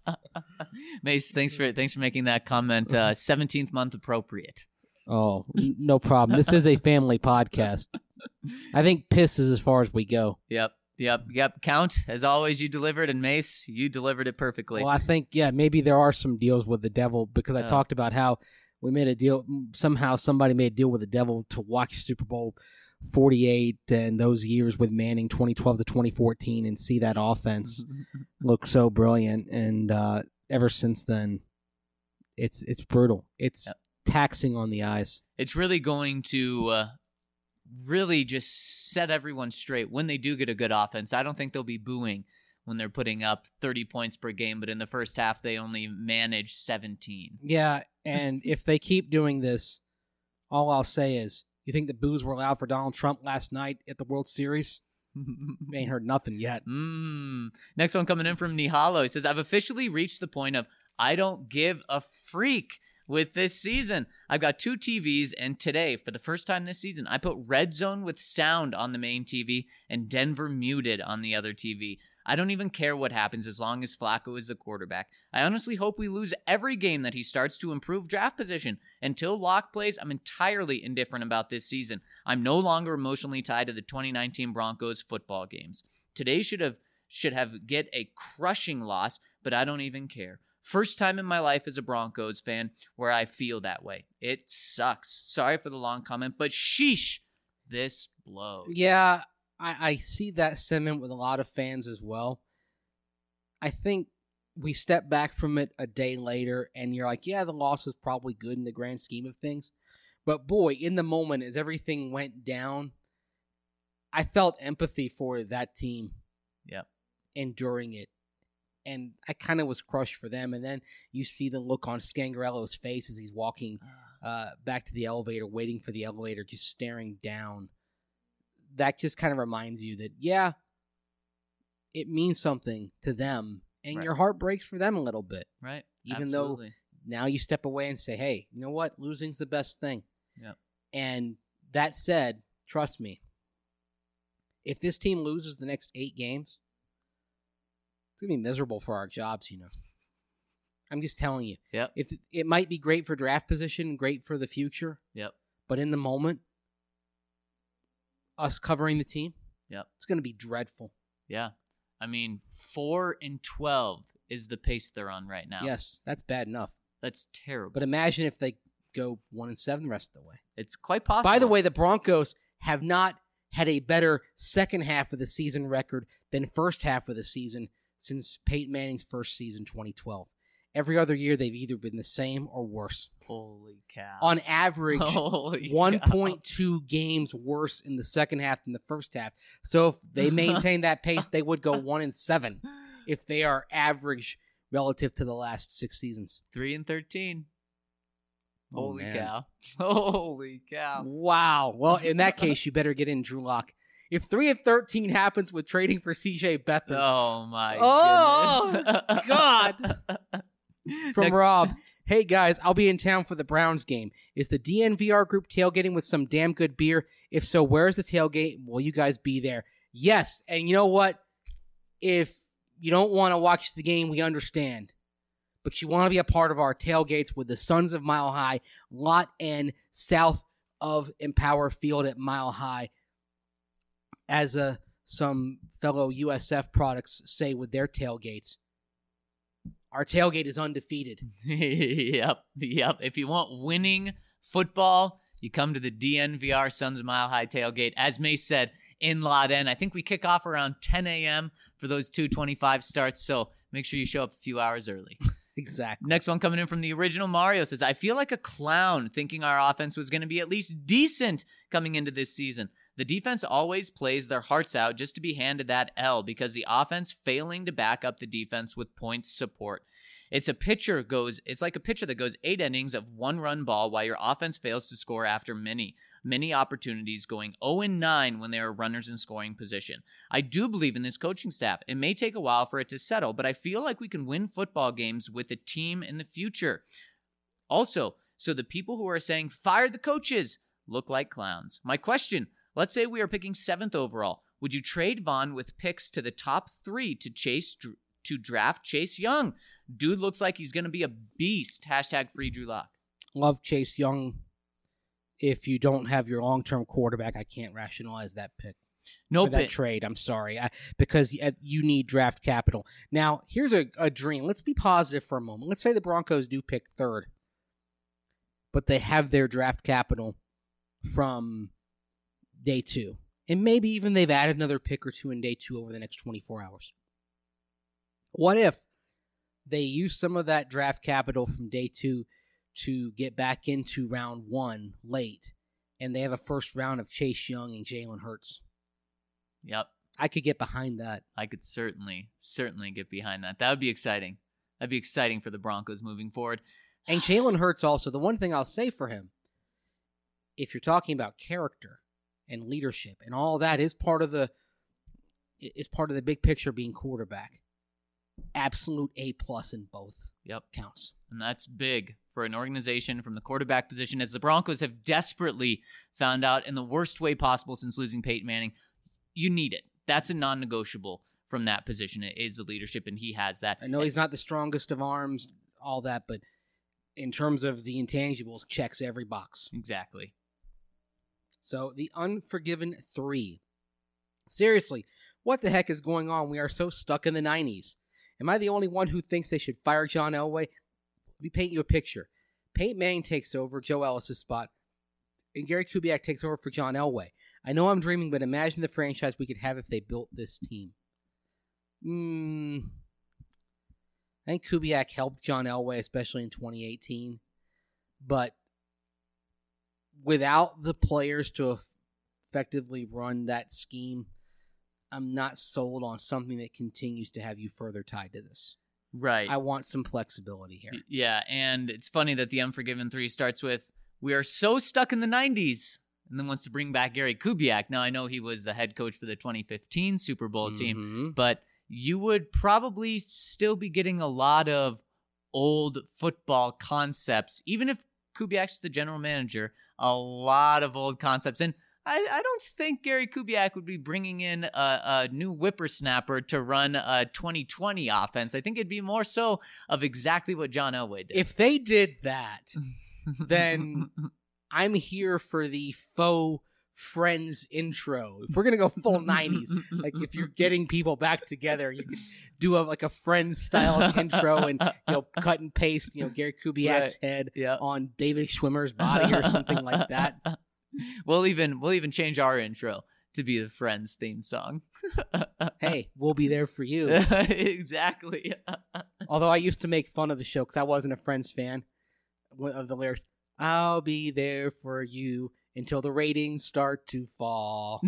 Mace, thanks for making that comment. 17th month appropriate. Oh, no problem. This is a family podcast. I think piss is as far as we go. Yep. Count, as always, you delivered, and Mace, you delivered it perfectly. Well, I think, maybe there are some deals with the devil, because I talked about how we made a deal. Somehow somebody made a deal with the devil to watch Super Bowl 48 and those years with Manning, 2012 to 2014, and see that offense look so brilliant. And ever since then, it's brutal. It's taxing on the eyes. It's really going to really just set everyone straight when they do get a good offense. I don't think they'll be booing when they're putting up 30 points per game, but in the first half, they only manage 17. Yeah, and if they keep doing this, All I'll say is, you think the boos were allowed for Donald Trump last night at the World Series? We ain't heard nothing yet. Next one coming in from Nihalo. He says, I've officially reached the point of I don't give a freak with this season. I've got 2 TVs, and today, for the first time this season, I put Red Zone with sound on the main TV and Denver muted on the other TV. I don't even care what happens as long as Flacco is the quarterback. I honestly hope we lose every game that he starts to improve draft position. Until Locke plays, I'm entirely indifferent about this season. I'm no longer emotionally tied to the 2019 Broncos football games. Today should have get a crushing loss, but I don't even care. First time in my life as a Broncos fan where I feel that way. It sucks. Sorry for the long comment, but sheesh, this blows. Yeah, I see that sentiment with a lot of fans as well. I think we step back from it a day later, and you're like, yeah, the loss was probably good in the grand scheme of things. But boy, in the moment, as everything went down, I felt empathy for that team. Yep. Enduring it. And I kind of was crushed for them. And then you see the look on Scangarello's face as he's walking back to the elevator, waiting for the elevator, just staring down. That just kind of reminds you that, yeah, it means something to them. And Right. your heart breaks for them a little bit. Right. Even Absolutely. though now you step away and say, hey, you know what? Losing's the best thing. Yep. And that said, trust me, if this team loses the next 8 games, it's going to be miserable for our jobs, you know. I'm just telling you. Yep. If it might be great for draft position, great for the future, Yep. but in the moment, us covering the team, Yep. it's going to be dreadful. Yeah. I mean, 4-12 is the pace they're on right now. Yes, that's bad enough. That's terrible. But imagine if they go 1-7 the rest of the way. It's quite possible. By the way, the Broncos have not had a better second half of the season record than first half of the season since Peyton Manning's first season, 2012. Every other year, they've either been the same or worse. Holy cow. On average, Holy 1.2 games worse in the second half than the first half. So if they maintain that pace, they would go 1-7 if they are average relative to the last 6 seasons. 3-13. Oh, Holy man. cow. Holy cow. Wow. Well, in that case, you better get in Drew Lock. If 3-13 happens with trading for C.J. Beathard, Oh, my Oh, goodness. God. from Next- Rob, hey guys, I'll be in town for the Browns game. Is the DNVR group tailgating with some damn good beer? If so, where's the tailgate? Will you guys be there? Yes. And you know what? If you don't want to watch the game, we understand. But you want to be a part of our tailgates with the Sons of Mile High, Lot N, south of Empower Field at Mile High. As some fellow USF products say with their tailgates, our tailgate is undefeated. Yep. If you want winning football, you come to the DNVR Sons of Mile High tailgate. As May said, in Lot N. I think we kick off around 10 a.m. for those 2:25 starts, so make sure you show up a few hours early. Exactly. Next one coming in from the original Mario says, I feel like a clown thinking our offense was going to be at least decent coming into this season. The defense always plays their hearts out just to be handed that L because the offense failing to back up the defense with points support. It's like a pitcher that goes 8 innings of 1-run ball while your offense fails to score after many opportunities, going 0-9 when there are runners in scoring position. I do believe in this coaching staff. It may take a while for it to settle, but I feel like we can win football games with a team in the future. Also, so the people who are saying fire the coaches look like clowns. My question, let's say we are picking 7th overall. Would you trade Vaughn with picks to the top 3 to draft Chase Young? Dude looks like he's going to be a beast. # free Drew Lock. Love Chase Young. If you don't have your long-term quarterback, I can't rationalize that pick. Nope. That trade, I'm sorry. Because you need draft capital. Now, here's a dream. Let's be positive for a moment. Let's say the Broncos do pick 3rd, but they have their draft capital from day 2. And maybe even they've added another pick or 2 in day 2 over the next 24 hours. What if they use some of that draft capital from day 2 to get back into round 1 late, and they have a first round of Chase Young and Jalen Hurts? Yep. I could get behind that. I could certainly get behind that. That would be exciting. That'd be exciting for the Broncos moving forward. And Jalen Hurts also, the one thing I'll say for him, if you're talking about character and leadership and all that is part of the big picture being quarterback. Absolute A+ in both counts. And that's big for an organization from the quarterback position, as the Broncos have desperately found out in the worst way possible since losing Peyton Manning. You need it. That's a non-negotiable from that position. It is the leadership, and he has that. I know he's not the strongest of arms, all that, but in terms of the intangibles, checks every box. Exactly. So the Unforgiven 3. Seriously, what the heck is going on? We are so stuck in the 90s. Am I the only one who thinks they should fire John Elway? Let me paint you a picture. Peyton Manning takes over Joe Ellis' spot, and Gary Kubiak takes over for John Elway. I know I'm dreaming, but imagine the franchise we could have if they built this team. I think Kubiak helped John Elway, especially in 2018. But without the players to effectively run that scheme, I'm not sold on something that continues to have you further tied to this. Right. I want some flexibility here. Yeah, and it's funny that the Unforgiven 3 starts with, we are so stuck in the 90s, and then wants to bring back Gary Kubiak. Now, I know he was the head coach for the 2015 Super Bowl team, but you would probably still be getting a lot of old football concepts, even if Kubiak's the general manager, a lot of old concepts. And I don't think Gary Kubiak would be bringing in a new whippersnapper to run a 2020 offense. I think it'd be more so of exactly what John Elway did. If they did that, then I'm here for the faux Friends intro. If we're going to go full 90s, like if you're getting people back together, you could do a Friends style intro and cut and paste Gary Kubiak's head on David Schwimmer's body or something like that. We'll even change our intro to be the Friends theme song. Hey, we'll be there for you. Exactly. Although I used to make fun of the show because I wasn't a Friends fan of the lyrics. I'll be there for you until the ratings start to fall.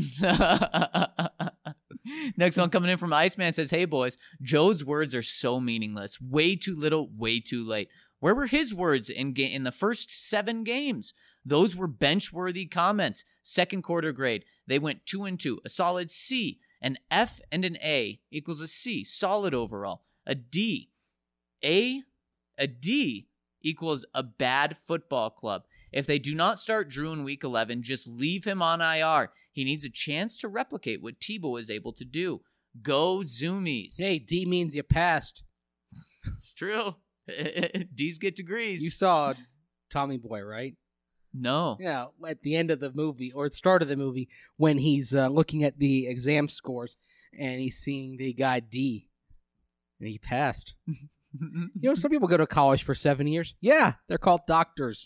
Next one coming in from Iceman says, hey boys, Joe's words are so meaningless. Way too little, way too late. Where were his words in the first 7 games? Those were bench-worthy comments. Second quarter grade. They went 2 and 2. A solid C. An F and an A equals a C. Solid overall. A D. A D equals a bad football club. If they do not start Drew in week 11, just leave him on IR. He needs a chance to replicate what Tebow is able to do. Go Zoomies. Hey, D means you passed. It's true. D's get degrees. You saw Tommy Boy, right? No. Yeah, at the end of the movie, or at the start of the movie, when he's looking at the exam scores, and he's seeing the guy D, and he passed. Some people go to college for 7 years. Yeah, they're called doctors.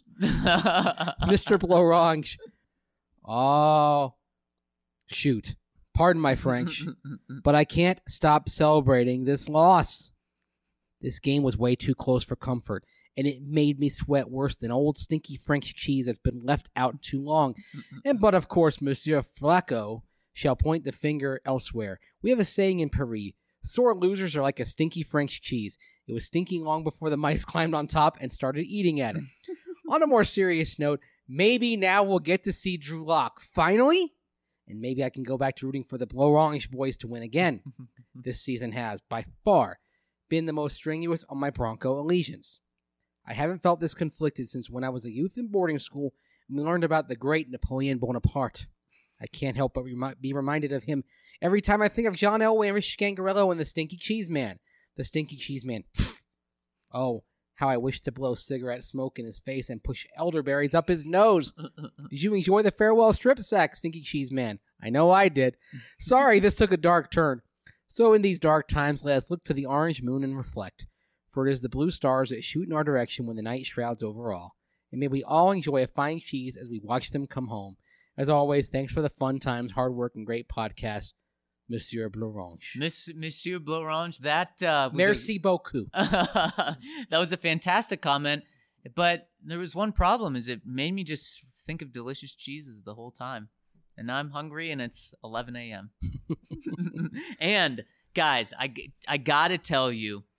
Mr. Blorange. Oh, shoot. Pardon my French, but I can't stop celebrating this loss. This game was way too close for comfort, and it made me sweat worse than old stinky French cheese that's been left out too long. But of course, Monsieur Flacco shall point the finger elsewhere. We have a saying in Paris, sore losers are like a stinky French cheese. It was stinking long before the mice climbed on top and started eating at it. On a more serious note, maybe now we'll get to see Drew Lock finally, and maybe I can go back to rooting for the Blorange boys to win again. This season has, by far, been the most strenuous on my Bronco allegiance. I haven't felt this conflicted since when I was a youth in boarding school and we learned about the great Napoleon Bonaparte. I can't help but be reminded of him every time I think of John Elway and Rich Scangarello and the Stinky Cheese Man. The Stinky Cheese Man. Oh, how I wish to blow cigarette smoke in his face and push elderberries up his nose. Did you enjoy the farewell strip sack, Stinky Cheese Man? I know I did. Sorry, this took a dark turn. So in these dark times, let us look to the orange moon and reflect. For it is the blue stars that shoot in our direction when the night shrouds over all. And may we all enjoy a fine cheese as we watch them come home. As always, thanks for the fun times, hard work, and great podcast, Monsieur Blorange. Monsieur Blorange, that was Merci beaucoup. That was a fantastic comment, but there was one problem, is it made me just think of delicious cheeses the whole time. And now I'm hungry, and it's 11 a.m. And, guys, I got to tell you,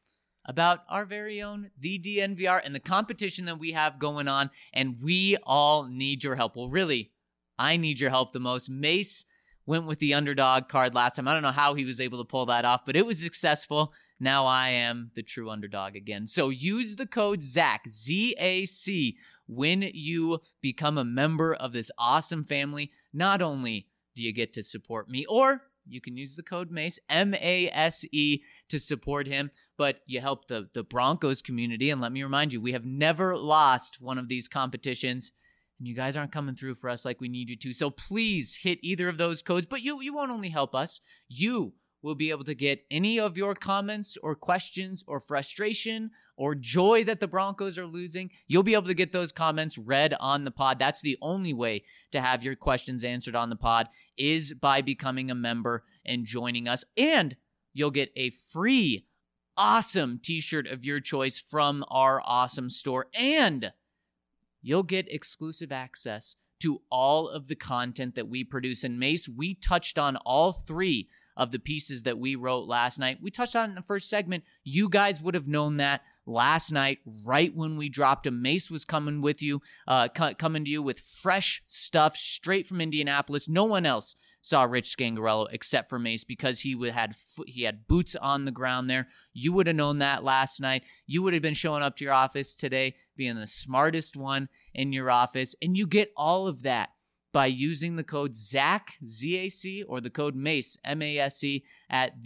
about our very own The DNVR and the competition that we have going on, and we all need your help. Well, really, I need your help the most. Mace went with the underdog card last time. I don't know how he was able to pull that off, but it was successful. Now I am the true underdog again. So use the code ZAC, Z-A-C, when you become a member of this awesome family. Not only do you get to support me, or you can use the code MACE, M-A-S-E, to support him, but you help the Broncos community. And let me remind you, we have never lost one of these competitions, and you guys aren't coming through for us like we need you to. So please hit either of those codes, but you won't only help us. You will be able to get any of your comments or questions or frustration or joy that the Broncos are losing. You'll be able to get those comments read on the pod. That's the only way to have your questions answered on the pod, is by becoming a member and joining us. And you'll get a free, awesome t-shirt of your choice from our awesome store. And you'll get exclusive access to all of the content that we produce. And Mace, we touched on all three of the pieces that we wrote last night. We touched on it in the first segment. You guys would have known that last night, right when we dropped them. Mace was coming with you, coming to you with fresh stuff straight from Indianapolis. No one else saw Rich Scangarello except for Mace, because he had boots on the ground there. You would have known that last night. You would have been showing up to your office today, being the smartest one in your office, and you get all of that by using the code ZAC, Z-A-C, or the code MACE, M-A-S-E, at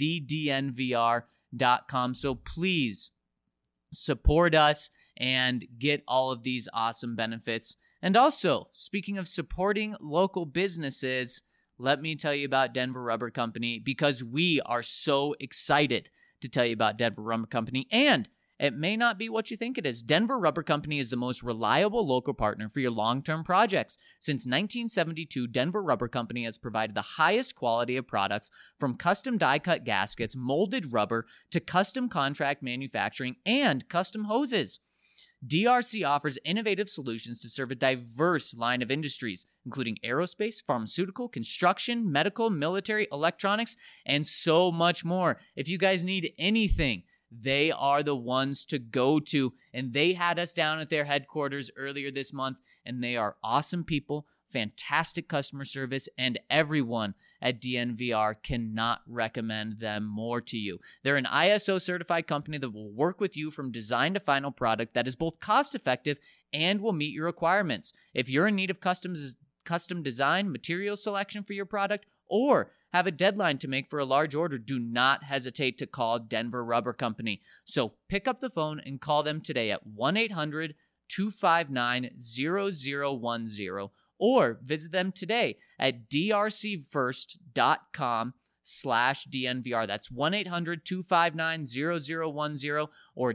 thednvr.com. So please support us and get all of these awesome benefits. And also, speaking of supporting local businesses, let me tell you about Denver Rubber Company, because we are so excited to tell you about Denver Rubber Company. And it may not be what you think it is. Denver Rubber Company is the most reliable local partner for your long-term projects. Since 1972, Denver Rubber Company has provided the highest quality of products, from custom die-cut gaskets, molded rubber, to custom contract manufacturing and custom hoses. DRC offers innovative solutions to serve a diverse line of industries, including aerospace, pharmaceutical, construction, medical, military, electronics, and so much more. If you guys need anything, they are the ones to go to, and they had us down at their headquarters earlier this month, and they are awesome people, fantastic customer service, and everyone at DNVR cannot recommend them more to you. They're an ISO certified company that will work with you from design to final product that is both cost effective and will meet your requirements. If you're in need of custom design, material selection for your product, or have a deadline to make for a large order, do not hesitate to call Denver Rubber Company. So pick up the phone and call them today at 1-800-259-0010, or visit them today at drcfirst.com/DNVR. That's 1-800-259-0010 or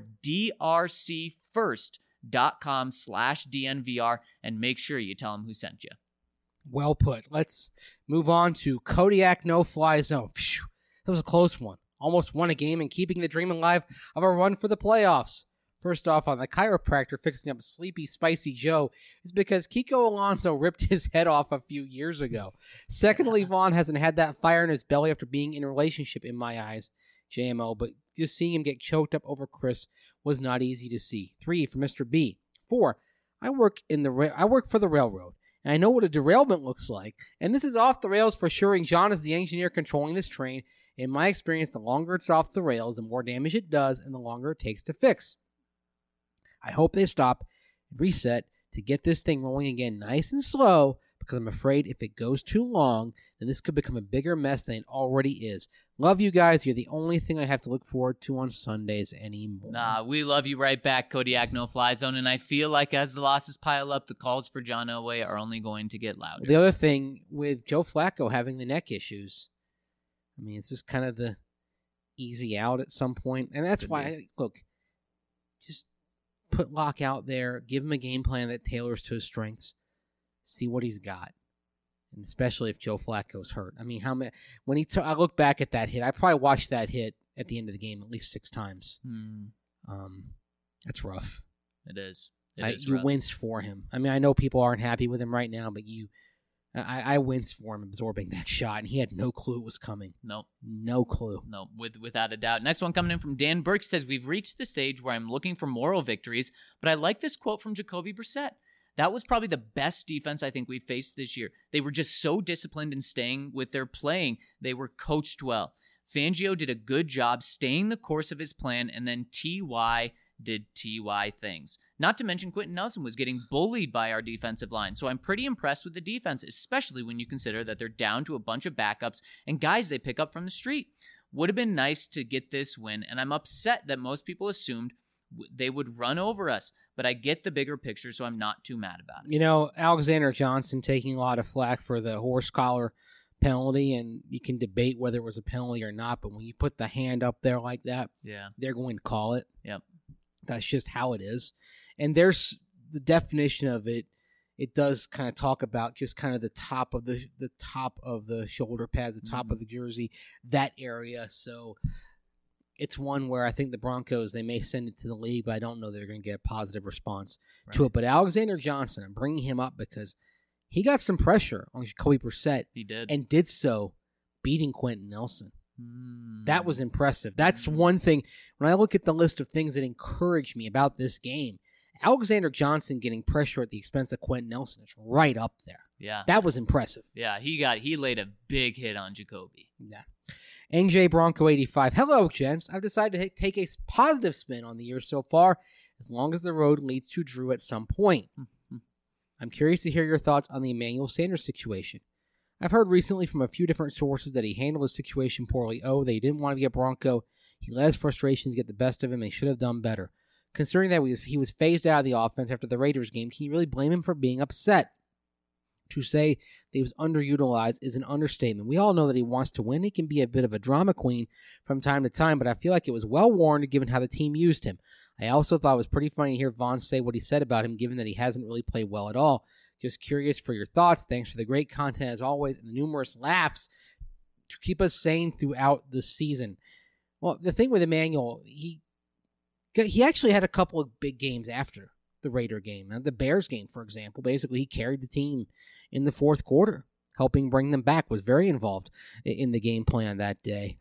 drcfirst.com/DNVR, and make sure you tell them who sent you. Well put. Let's move on to Kodiak no-fly zone. Phew, that was a close one. Almost won a game and keeping the dream alive of a run for the playoffs. First off, on the chiropractor fixing up Sleepy Spicy Joe is because Kiko Alonso ripped his head off a few years ago. Secondly, Vaughn hasn't had that fire in his belly after being in a relationship, in my eyes, JMO, but just seeing him get choked up over Chris was not easy to see. 3, for Mr. B. 4, I work for the railroad, and I know what a derailment looks like, and this is off the rails for sure, and John is the engineer controlling this train. In my experience, the longer it's off the rails, the more damage it does, and the longer it takes to fix. I hope they stop and reset to get this thing rolling again nice and slow, because I'm afraid if it goes too long, then this could become a bigger mess than it already is. Love you guys. You're the only thing I have to look forward to on Sundays anymore. Nah, we love you right back, Kodiak No-Fly Zone, and I feel like as the losses pile up, the calls for John Elway are only going to get louder. The other thing with Joe Flacco having the neck issues, I mean, it's just kind of the easy out at some point, and that's why, look, just put Locke out there, give him a game plan that tailors to his strengths, see what he's got, and especially if Joe Flacco's hurt. I mean, how many? I look back at that hit, I probably watched that hit at the end of the game at least 6 times. That's rough. It is. You winced for him. I mean, I know people aren't happy with him right now, but I winced for him absorbing that shot, and he had no clue it was coming. Nope. No clue. No, without a doubt. Next one coming in from Dan Burke says, we've reached the stage where I'm looking for moral victories, but I like this quote from Jacoby Brissett. That was probably the best defense I think we've faced this year. They were just so disciplined in staying with their playing. They were coached well. Fangio did a good job staying the course of his plan, and then T.Y. did T.Y. things. Not to mention Quentin Nelson was getting bullied by our defensive line, so I'm pretty impressed with the defense, especially when you consider that they're down to a bunch of backups and guys they pick up from the street. Would have been nice to get this win, and I'm upset that most people assumed they would run over us, but I get the bigger picture, so I'm not too mad about it. You know, Alexander Johnson taking a lot of flack for the horse collar penalty, and you can debate whether it was a penalty or not, but when you put the hand up there like that, they're going to call it. Yep. That's just how it is. And there's the definition of it. It does kind of talk about just kind of the top of the shoulder pads, the top of the jersey, that area. So it's one where I think the Broncos, they may send it to the league, but I don't know they're going to get a positive response to it. But Alexander Johnson, I'm bringing him up because he got some pressure on Jacoby Brissett. He did. And did so beating Quentin Nelson. That was impressive. That's one thing. When I look at the list of things that encourage me about this game, Alexander Johnson getting pressure at the expense of Quentin Nelson is right up there. Yeah. That was impressive. Yeah, he laid a big hit on Jacoby. Yeah. NJ Bronco 85. Hello, gents. I've decided to take a positive spin on the year so far, as long as the road leads to Drew at some point. I'm curious to hear your thoughts on the Emmanuel Sanders situation. I've heard recently from a few different sources that he handled his situation poorly. That he didn't want to be a Bronco. He let his frustrations get the best of him and he should have done better. Considering that he was phased out of the offense after the Raiders game, can you really blame him for being upset? To say that he was underutilized is an understatement. We all know that he wants to win. He can be a bit of a drama queen from time to time, but I feel like it was well warranted given how the team used him. I also thought it was pretty funny to hear Vaughn say what he said about him, given that he hasn't really played well at all. Just curious for your thoughts. Thanks for the great content as always and the numerous laughs to keep us sane throughout the season. Well, the thing with Emmanuel, he actually had a couple of big games after the Raider game. The Bears game, for example, basically he carried the team in the fourth quarter, helping bring them back, was very involved in the game plan that day.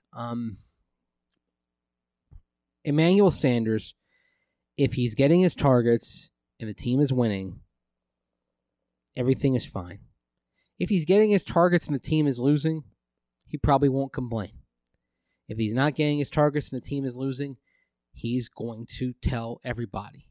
Emmanuel Sanders, if he's getting his targets and the team is winning, everything is fine. If he's getting his targets and the team is losing, he probably won't complain. If he's not getting his targets and the team is losing, he's going to tell everybody.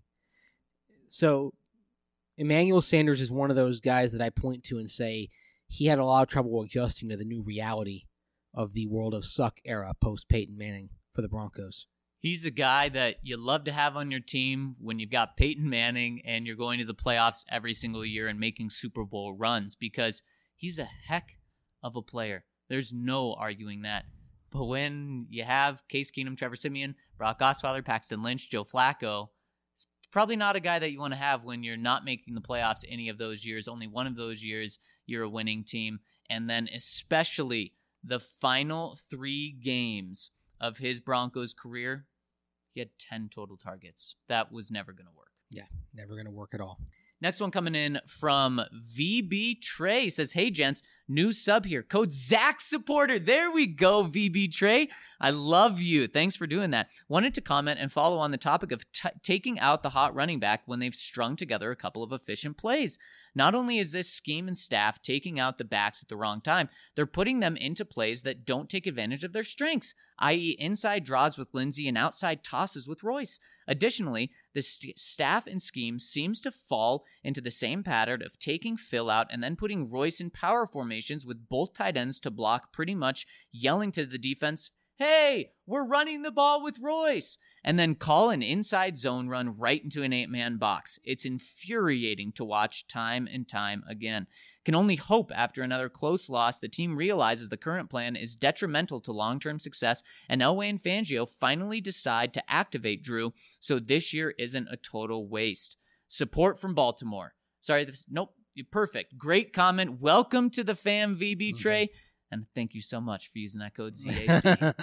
So Emmanuel Sanders is one of those guys that I point to and say he had a lot of trouble adjusting to the new reality of the world of suck era post Peyton Manning for the Broncos. He's a guy that you love to have on your team when you've got Peyton Manning and you're going to the playoffs every single year and making Super Bowl runs because he's a heck of a player. There's no arguing that. But when you have Case Keenum, Trevor Siemian, Brock Osweiler, Paxton Lynch, Joe Flacco, it's probably not a guy that you want to have when you're not making the playoffs any of those years. Only one of those years you're a winning team. And then especially the final 3 games of his Broncos career, he had 10 total targets. That was never going to work. Yeah, never going to work at all. Next one coming in from VB Trey says, hey, gents, new sub here. Code Zach supporter. There we go, VB Trey. I love you. Thanks for doing that. Wanted to comment and follow on the topic of taking out the hot running back when they've strung together a couple of efficient plays. Not only is this scheme and staff taking out the backs at the wrong time, they're putting them into plays that don't take advantage of their strengths, i.e. inside draws with Lindsey and outside tosses with Royce. Additionally, the staff and scheme seems to fall into the same pattern of taking Phil out and then putting Royce in power formations with both tight ends to block, pretty much yelling to the defense, hey, we're running the ball with Royce, and then call an inside zone run right into an 8-man box. It's infuriating to watch time and time again. Can only hope after another close loss, the team realizes the current plan is detrimental to long-term success, and Elway and Fangio finally decide to activate Drew, so this year isn't a total waste. Support from Baltimore. Sorry, nope, perfect. Great comment. Welcome to the fam, VB Trey. And thank you so much for using that code ZAC.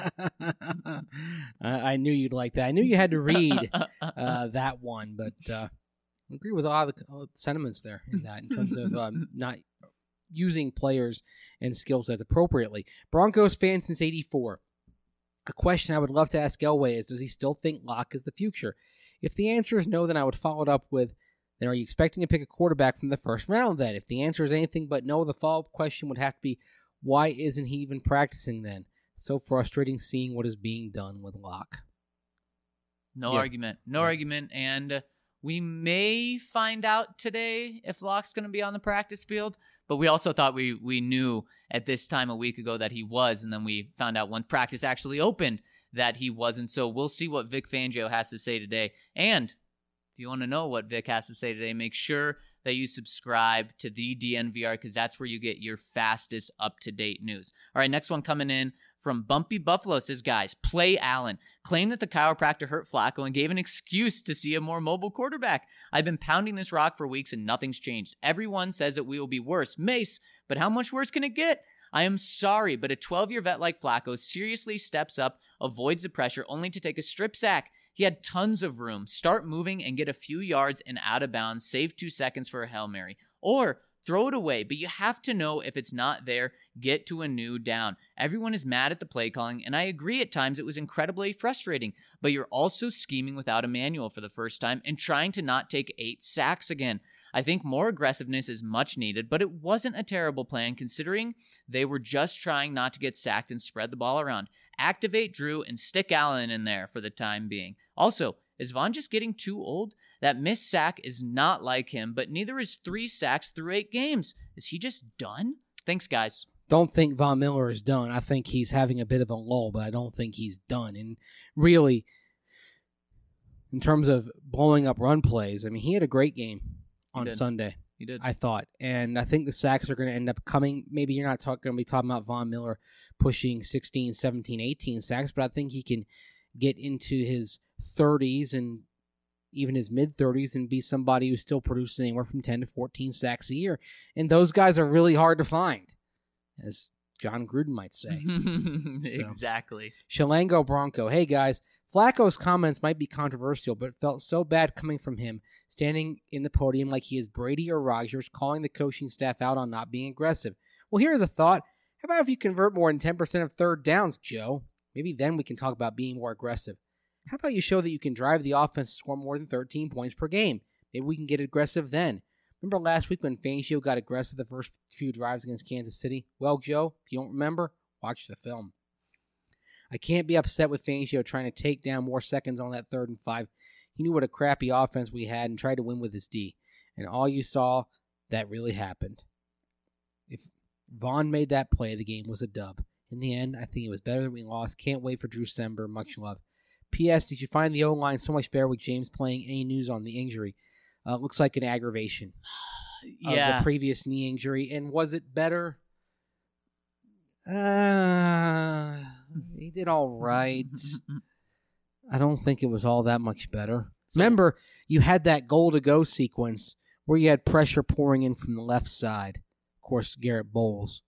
I knew you'd like that. I knew you had to read that one, but I agree with all the sentiments there in that, in terms of not using players and skill sets appropriately. Broncos fan since 84. A question I would love to ask Elway is, does he still think Locke is the future? If the answer is no, then I would follow it up with, then are you expecting to pick a quarterback from the first round then? If the answer is anything but no, the follow-up question would have to be, why isn't he even practicing then? So frustrating seeing what is being done with Locke. No argument. No argument. And we may find out today if Locke's going to be on the practice field, but we also thought we knew at this time a week ago that he was, and then we found out when practice actually opened that he wasn't. So we'll see what Vic Fangio has to say today. And if you want to know what Vic has to say today, make sure that you subscribe to the DNVR because that's where you get your fastest up-to-date news. All right, next one coming in from Bumpy Buffalo says, guys, play Allen. Claimed that the chiropractor hurt Flacco and gave an excuse to see a more mobile quarterback. I've been pounding this rock for weeks and nothing's changed. Everyone says it will be worse. Mace, but how much worse can it get? I am sorry, but a 12-year vet like Flacco seriously steps up, avoids the pressure, only to take a strip sack. He had tons of room. Start moving and get a few yards and out of bounds. Save 2 seconds for a Hail Mary. Or throw it away, but you have to know if it's not there, get to a new down. Everyone is mad at the play calling, and I agree at times it was incredibly frustrating, but you're also scheming without a manual for the first time and trying to not take 8 sacks again. I think more aggressiveness is much needed, but it wasn't a terrible plan considering they were just trying not to get sacked and spread the ball around. Activate Drew and stick Allen in there for the time being. Also, is Von just getting too old? That missed sack is not like him, but neither is 3 sacks through 8 games. Is he just done? Thanks, guys. Don't think Von Miller is done. I think he's having a bit of a lull, but I don't think he's done. And really, in terms of blowing up run plays, I mean, he had a great game on Sunday. He did. I thought. And I think the sacks are going to end up coming. Maybe you're not going to be talking about Von Miller pushing 16, 17, 18 sacks, but I think he can get into his 30s and even his mid-30s and be somebody who's still producing anywhere from 10 to 14 sacks a year. And those guys are really hard to find, as John Gruden might say. Exactly. Shalango Bronco. Hey, guys. Flacco's comments might be controversial, but it felt so bad coming from him, standing in the podium like he is Brady or Rodgers, calling the coaching staff out on not being aggressive. Well, here's a thought. How about if you convert more than 10% of third downs, Joe? Maybe then we can talk about being more aggressive. How about you show that you can drive the offense to score more than 13 points per game? Maybe we can get aggressive then. Remember last week when Fangio got aggressive the first few drives against Kansas City? Well, Joe, if you don't remember, watch the film. I can't be upset with Fangio trying to take down more seconds on that 3rd and 5. He knew what a crappy offense we had and tried to win with his D. And all you saw, that really happened. If Vaughn made that play, the game was a dub. In the end, I think it was better that we lost. Can't wait for Drew Sember. Much love. P.S. Did you find the O-line so much better with James playing? Any news on the injury? Looks like an aggravation of the previous knee injury. And was it better? He did all right. I don't think it was all that much better. Remember, you had that goal-to-go sequence where you had pressure pouring in from the left side. Of course, Garrett Bowles.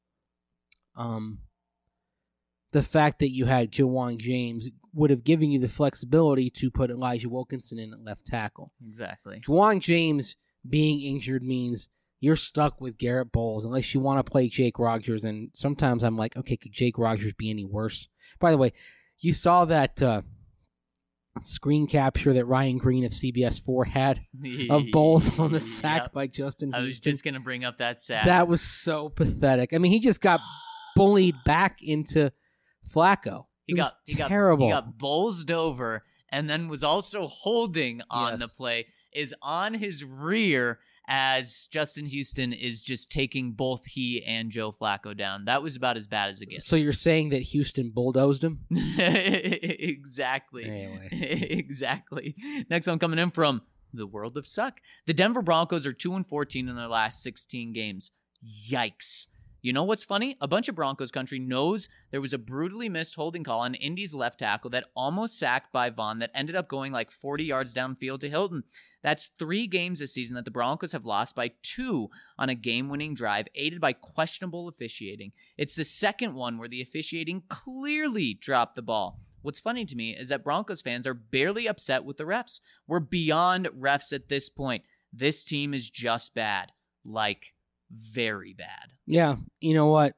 The fact that you had Ja'Wuan James would have given you the flexibility to put Elijah Wilkinson in at left tackle. Exactly. Ja'Wuan James being injured means you're stuck with Garrett Bowles unless you want to play Jake Rodgers. And sometimes I'm like, okay, could Jake Rodgers be any worse? By the way, you saw that screen capture that Ryan Green of CBS 4 had of Bowles on the sack by Justin Houston. I was just going to bring up that sack. That was so pathetic. I mean, he just got bullied back into Flacco. He got terrible. He got bowled over and then was also holding on the play, is on his rear as Justin Houston is just taking both he and Joe Flacco down. That was about as bad as it gets. So you're saying that Houston bulldozed him? Exactly. Anyway. Exactly. Next one coming in from the world of suck. The Denver Broncos are 2-14 in their last 16 games. Yikes. You know what's funny? A bunch of Broncos country knows there was a brutally missed holding call on Indy's left tackle that almost sacked by Vaughn that ended up going like 40 yards downfield to Hilton. That's 3 games this season that the Broncos have lost by 2 on a game-winning drive, aided by questionable officiating. It's the second one where the officiating clearly dropped the ball. What's funny to me is that Broncos fans are barely upset with the refs. We're beyond refs at this point. This team is just bad. Like very bad. Yeah, you know what?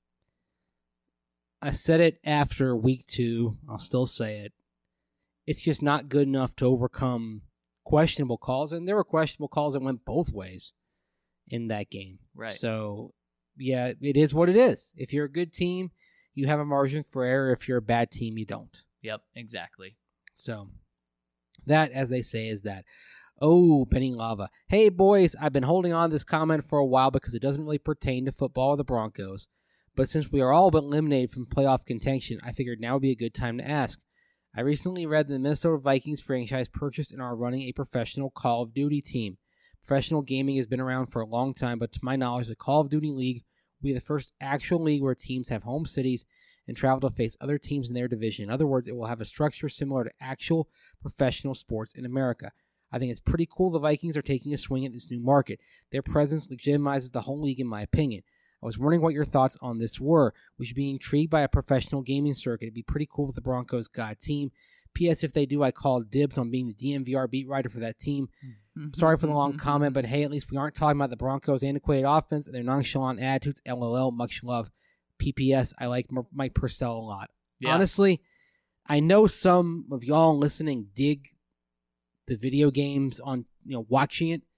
I said it after week 2. I'll still say it. It's just not good enough to overcome questionable calls, and there were questionable calls that went both ways in that game. Right. So, yeah, it is what it is. If you're a good team, you have a margin for error. If you're a bad team, you don't. Yep, exactly. So, that, as they say, is that. Oh, Benny Lava. Hey, boys, I've been holding on to this comment for a while because it doesn't really pertain to football or the Broncos. But since we are all but eliminated from playoff contention, I figured now would be a good time to ask. I recently read that the Minnesota Vikings franchise purchased and are running a professional Call of Duty team. Professional gaming has been around for a long time, but to my knowledge, the Call of Duty League will be the first actual league where teams have home cities and travel to face other teams in their division. In other words, it will have a structure similar to actual professional sports in America. I think it's pretty cool the Vikings are taking a swing at this new market. Their presence legitimizes the whole league, in my opinion. I was wondering what your thoughts on this were. We should be intrigued by a professional gaming circuit. It'd be pretty cool if the Broncos got a team. P.S. If they do, I call dibs on being the DNVR beat writer for that team. Sorry for the long comment, but hey, at least we aren't talking about the Broncos' antiquated offense and their nonchalant attitudes. LOL, much love. PPS, I like Mike Purcell a lot. Yeah. Honestly, I know some of y'all listening dig the video games on, watching it.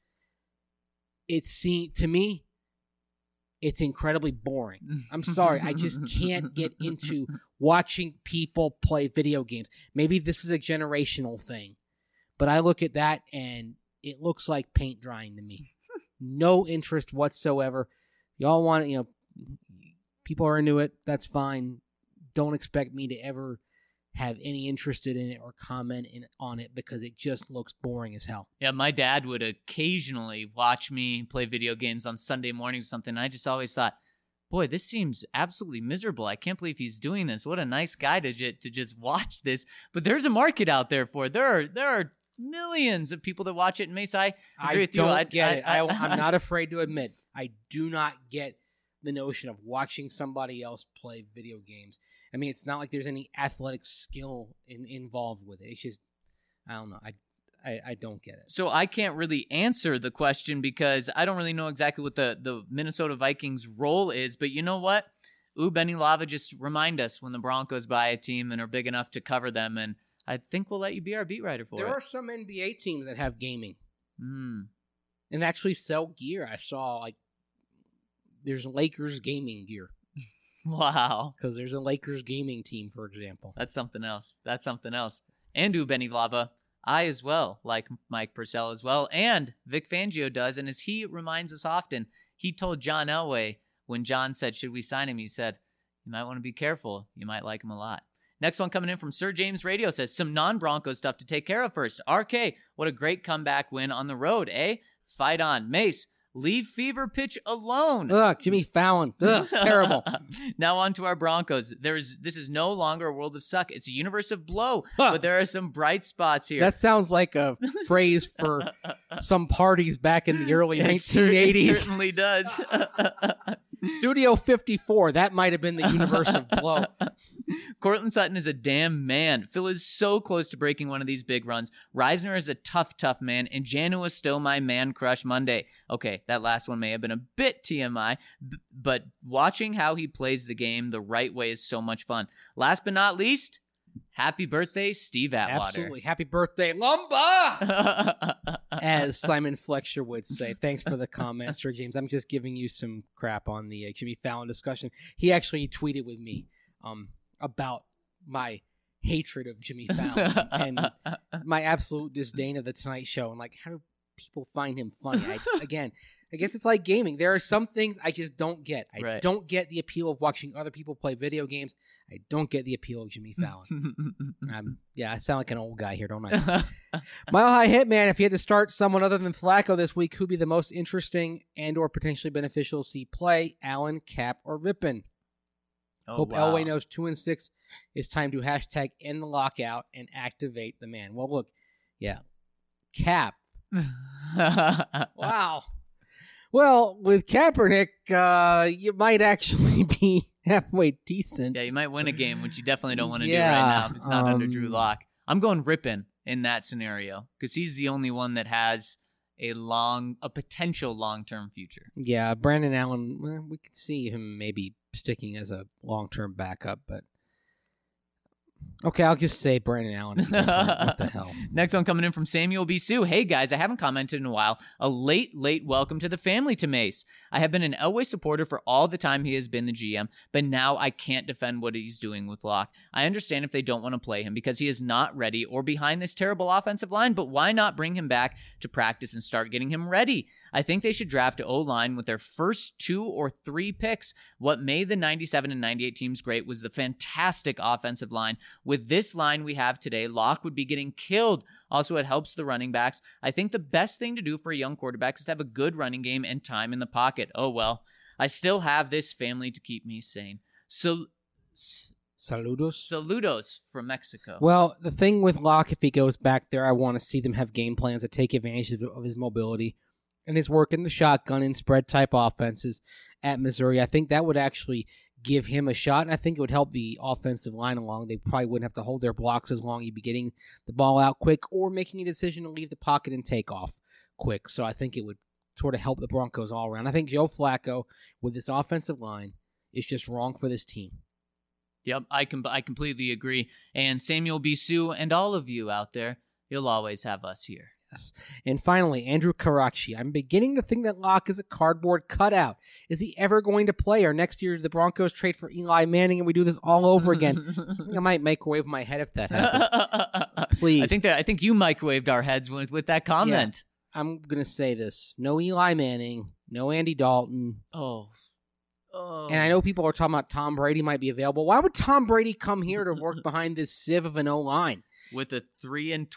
To me, it's incredibly boring. I'm sorry. I just can't get into watching people play video games. Maybe this is a generational thing, but I look at that and it looks like paint drying to me. No interest whatsoever. Y'all want it, people are into it. That's fine. Don't expect me to ever have any interest in it or comment on it because it just looks boring as hell. Yeah, my dad would occasionally watch me play video games on Sunday mornings or something. And I just always thought, boy, this seems absolutely miserable. I can't believe he's doing this. What a nice guy to just watch this. But there's a market out there for it. There are millions of people that watch it. And Mace, I agree with you. I don't get it. I'm not afraid to admit, I do not get the notion of watching somebody else play video games. I mean, it's not like there's any athletic skill involved with it. It's just, I don't know. I don't get it. So I can't really answer the question because I don't really know exactly what the Minnesota Vikings role is. But you know what? Benny Lava, just remind us when the Broncos buy a team and are big enough to cover them. And I think we'll let you be our beat writer for it. There are some NBA teams that have gaming. And actually sell gear. I saw, there's Lakers gaming gear. Wow. Because there's a Lakers gaming team, for example. That's something else. And Benny Lava, I as well like Mike Purcell as well. And Vic Fangio does. And as he reminds us often, he told John Elway when John said, should we sign him? He said, you might want to be careful. You might like him a lot. Next one coming in from Sir James Radio says, some non-Broncos stuff to take care of first. RK, what a great comeback win on the road, eh? Fight on. Mace, leave fever pitch alone. Ugh, Jimmy Fallon. Ugh, terrible. Now on to our Broncos. This is no longer a world of suck. It's a universe of blow, but there are some bright spots here. That sounds like a phrase for some parties back in the early 1980s. It certainly does. Studio 54, that might have been the universe of blow. Cortland Sutton is a damn man. Phil is so close to breaking one of these big runs. Reisner is a tough man, and Janu is still my man crush Monday. Okay, that last one may have been a bit TMI, but watching how he plays the game the right way is so much fun. Last but not least, happy birthday, Steve Atwater. Absolutely. Happy birthday, Lumba! As Simon Fletcher would say. Thanks for the comment, Sir James. I'm just giving you some crap on the Jimmy Fallon discussion. He actually tweeted with me about my hatred of Jimmy Fallon and my absolute disdain of the Tonight Show and how do people find him funny. I guess it's like gaming. There are some things I just don't get. I don't get the appeal of watching other people play video games. I don't get the appeal of Jimmy Fallon. I sound like an old guy here, don't I? Mile High Hitman, if you had to start someone other than Flacco this week, who'd be the most interesting and or potentially beneficial to see play? Allen, Cap, or Rippon? Hope Elway knows 2-6 is time to hashtag end the lockout and activate the man. Well, look, Cap. Wow. Well, with Kaepernick, you might actually be halfway decent. Yeah, you might win a game, which you definitely don't want to do right now if it's not under Drew Lock. I'm going Rippon in that scenario because he's the only one that has a potential long-term future. Yeah, Brandon Allen, we could see him maybe sticking as a long-term backup, but okay, I'll just say Brandon Allen. What the hell? Next one coming in from Samuel B. Sue. Hey, guys, I haven't commented in a while. A late welcome to the family to Mace. I have been an Elway supporter for all the time he has been the GM, but now I can't defend what he's doing with Locke. I understand if they don't want to play him because he is not ready or behind this terrible offensive line, but why not bring him back to practice and start getting him ready? I think they should draft an O-line with their first 2 or 3 picks. What made the 97 and 98 teams great was the fantastic offensive line. With this line we have today, Locke would be getting killed. Also, it helps the running backs. I think the best thing to do for a young quarterback is to have a good running game and time in the pocket. Oh, well, I still have this family to keep me sane. So, Saludos from Mexico. Well, the thing with Locke, if he goes back there, I want to see them have game plans that take advantage of his mobility and his work in the shotgun and spread type offenses at Missouri. I think that would actually give him a shot, and I think it would help the offensive line along. They probably wouldn't have to hold their blocks as long. You'd be getting the ball out quick or making a decision to leave the pocket and take off quick. So I think it would sort of help the Broncos all around. I think Joe Flacco with this offensive line is just wrong for this team. Yep, I completely agree. And Samuel B. Sue and all of you out there, you'll always have us here. Yes. And finally, Andrew Karachi. I'm beginning to think that Locke is a cardboard cutout. Is he ever going to play? Or next year the Broncos trade for Eli Manning and we do this all over again? I might microwave my head if that happens. Please. I think you microwaved our heads with that comment. Yeah, I'm going to say this. No Eli Manning. No Andy Dalton. Oh. And I know people are talking about Tom Brady might be available. Why would Tom Brady come here to work behind this sieve of an O-line? With a 3-13,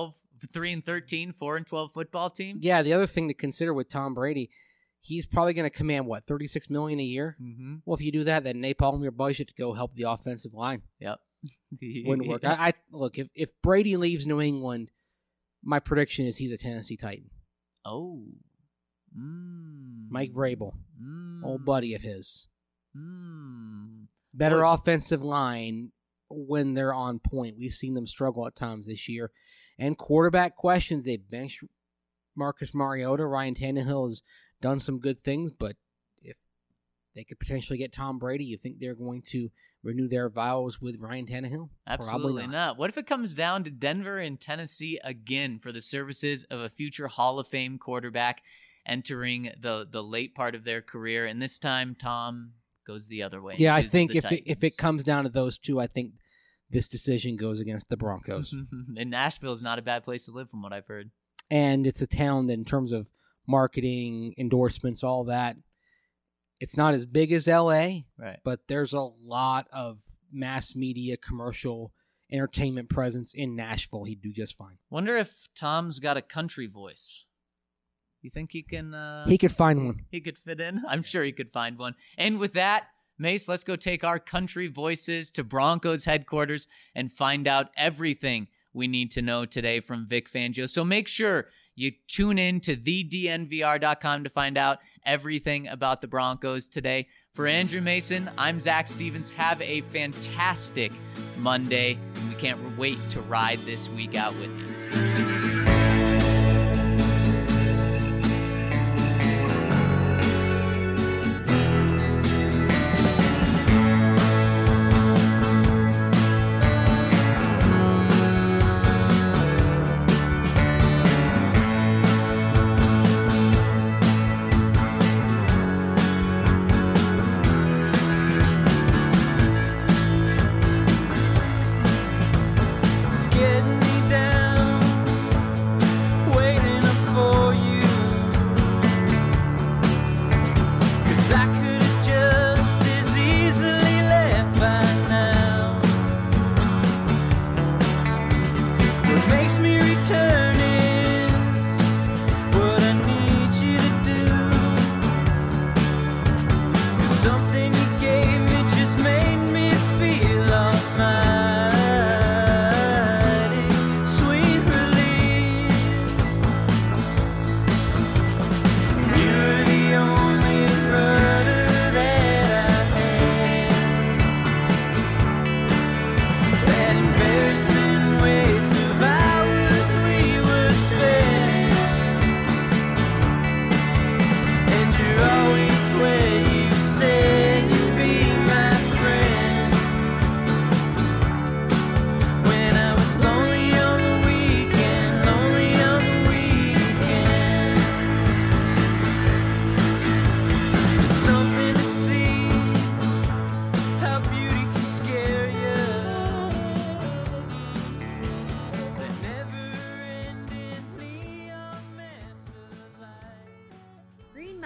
4-12 football team? Yeah, the other thing to consider with Tom Brady, he's probably going to command, what, $36 million a year? Mm-hmm. Well, if you do that, then napalm your budget to go help the offensive line. Yep. Wouldn't work. I look, if Brady leaves New England, my prediction is he's a Tennessee Titan. Oh. Mike Vrabel, old buddy of his. Better offensive line when they're on point. We've seen them struggle at times this year. And quarterback questions. They benched Marcus Mariota. Ryan Tannehill has done some good things, but if they could potentially get Tom Brady, you think they're going to renew their vows with Ryan Tannehill? Absolutely Probably not. What if it comes down to Denver and Tennessee again for the services of a future Hall of Fame quarterback entering the late part of their career, and this time Tom goes the other way? Yeah, I think if it comes down to those two, I think this decision goes against the Broncos. And Nashville is not a bad place to live from what I've heard. And it's a town that in terms of marketing, endorsements, all that, it's not as big as L.A., right? But there's a lot of mass media, commercial, entertainment presence in Nashville. He'd do just fine. Wonder if Tom's got a country voice. You think he can... he could find one. He could fit in? I'm sure he could find one. And with that, Mace, let's go take our country voices to Broncos headquarters and find out everything we need to know today from Vic Fangio. So make sure you tune in to thednvr.com to find out everything about the Broncos today. For Andrew Mason, I'm Zach Stevens. Have a fantastic Monday. We can't wait to ride this week out with you.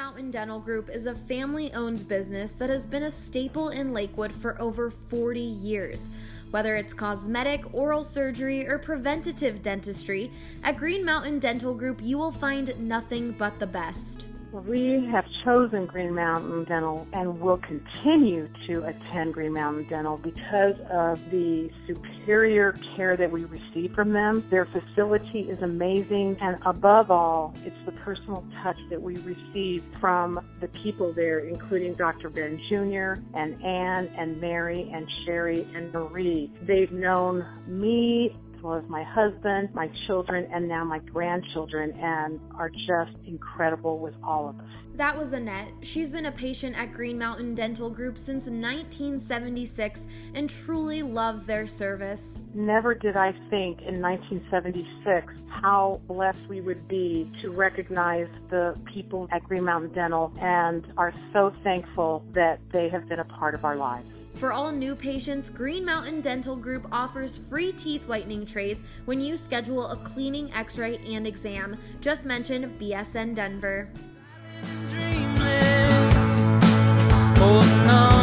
Mountain Dental Group is a family-owned business that has been a staple in Lakewood for over 40 years. Whether it's cosmetic, oral surgery, or preventative dentistry, at Green Mountain Dental Group you will find nothing but the best. We have chosen Green Mountain Dental and will continue to attend Green Mountain Dental because of the superior care that we receive from them. Their facility is amazing, and above all, it's the personal touch that we receive from the people there, including Dr. Ben Jr. and Ann and Mary and Sherry and Marie. They've known me as well as my husband, my children, and now my grandchildren, and are just incredible with all of us. That was Annette. She's been a patient at Green Mountain Dental Group since 1976 and truly loves their service. Never did I think in 1976 how blessed we would be to recognize the people at Green Mountain Dental, and are so thankful that they have been a part of our lives. For all new patients, Green Mountain Dental Group offers free teeth whitening trays when you schedule a cleaning, x-ray, and exam. Just mention BSN Denver. Holding on.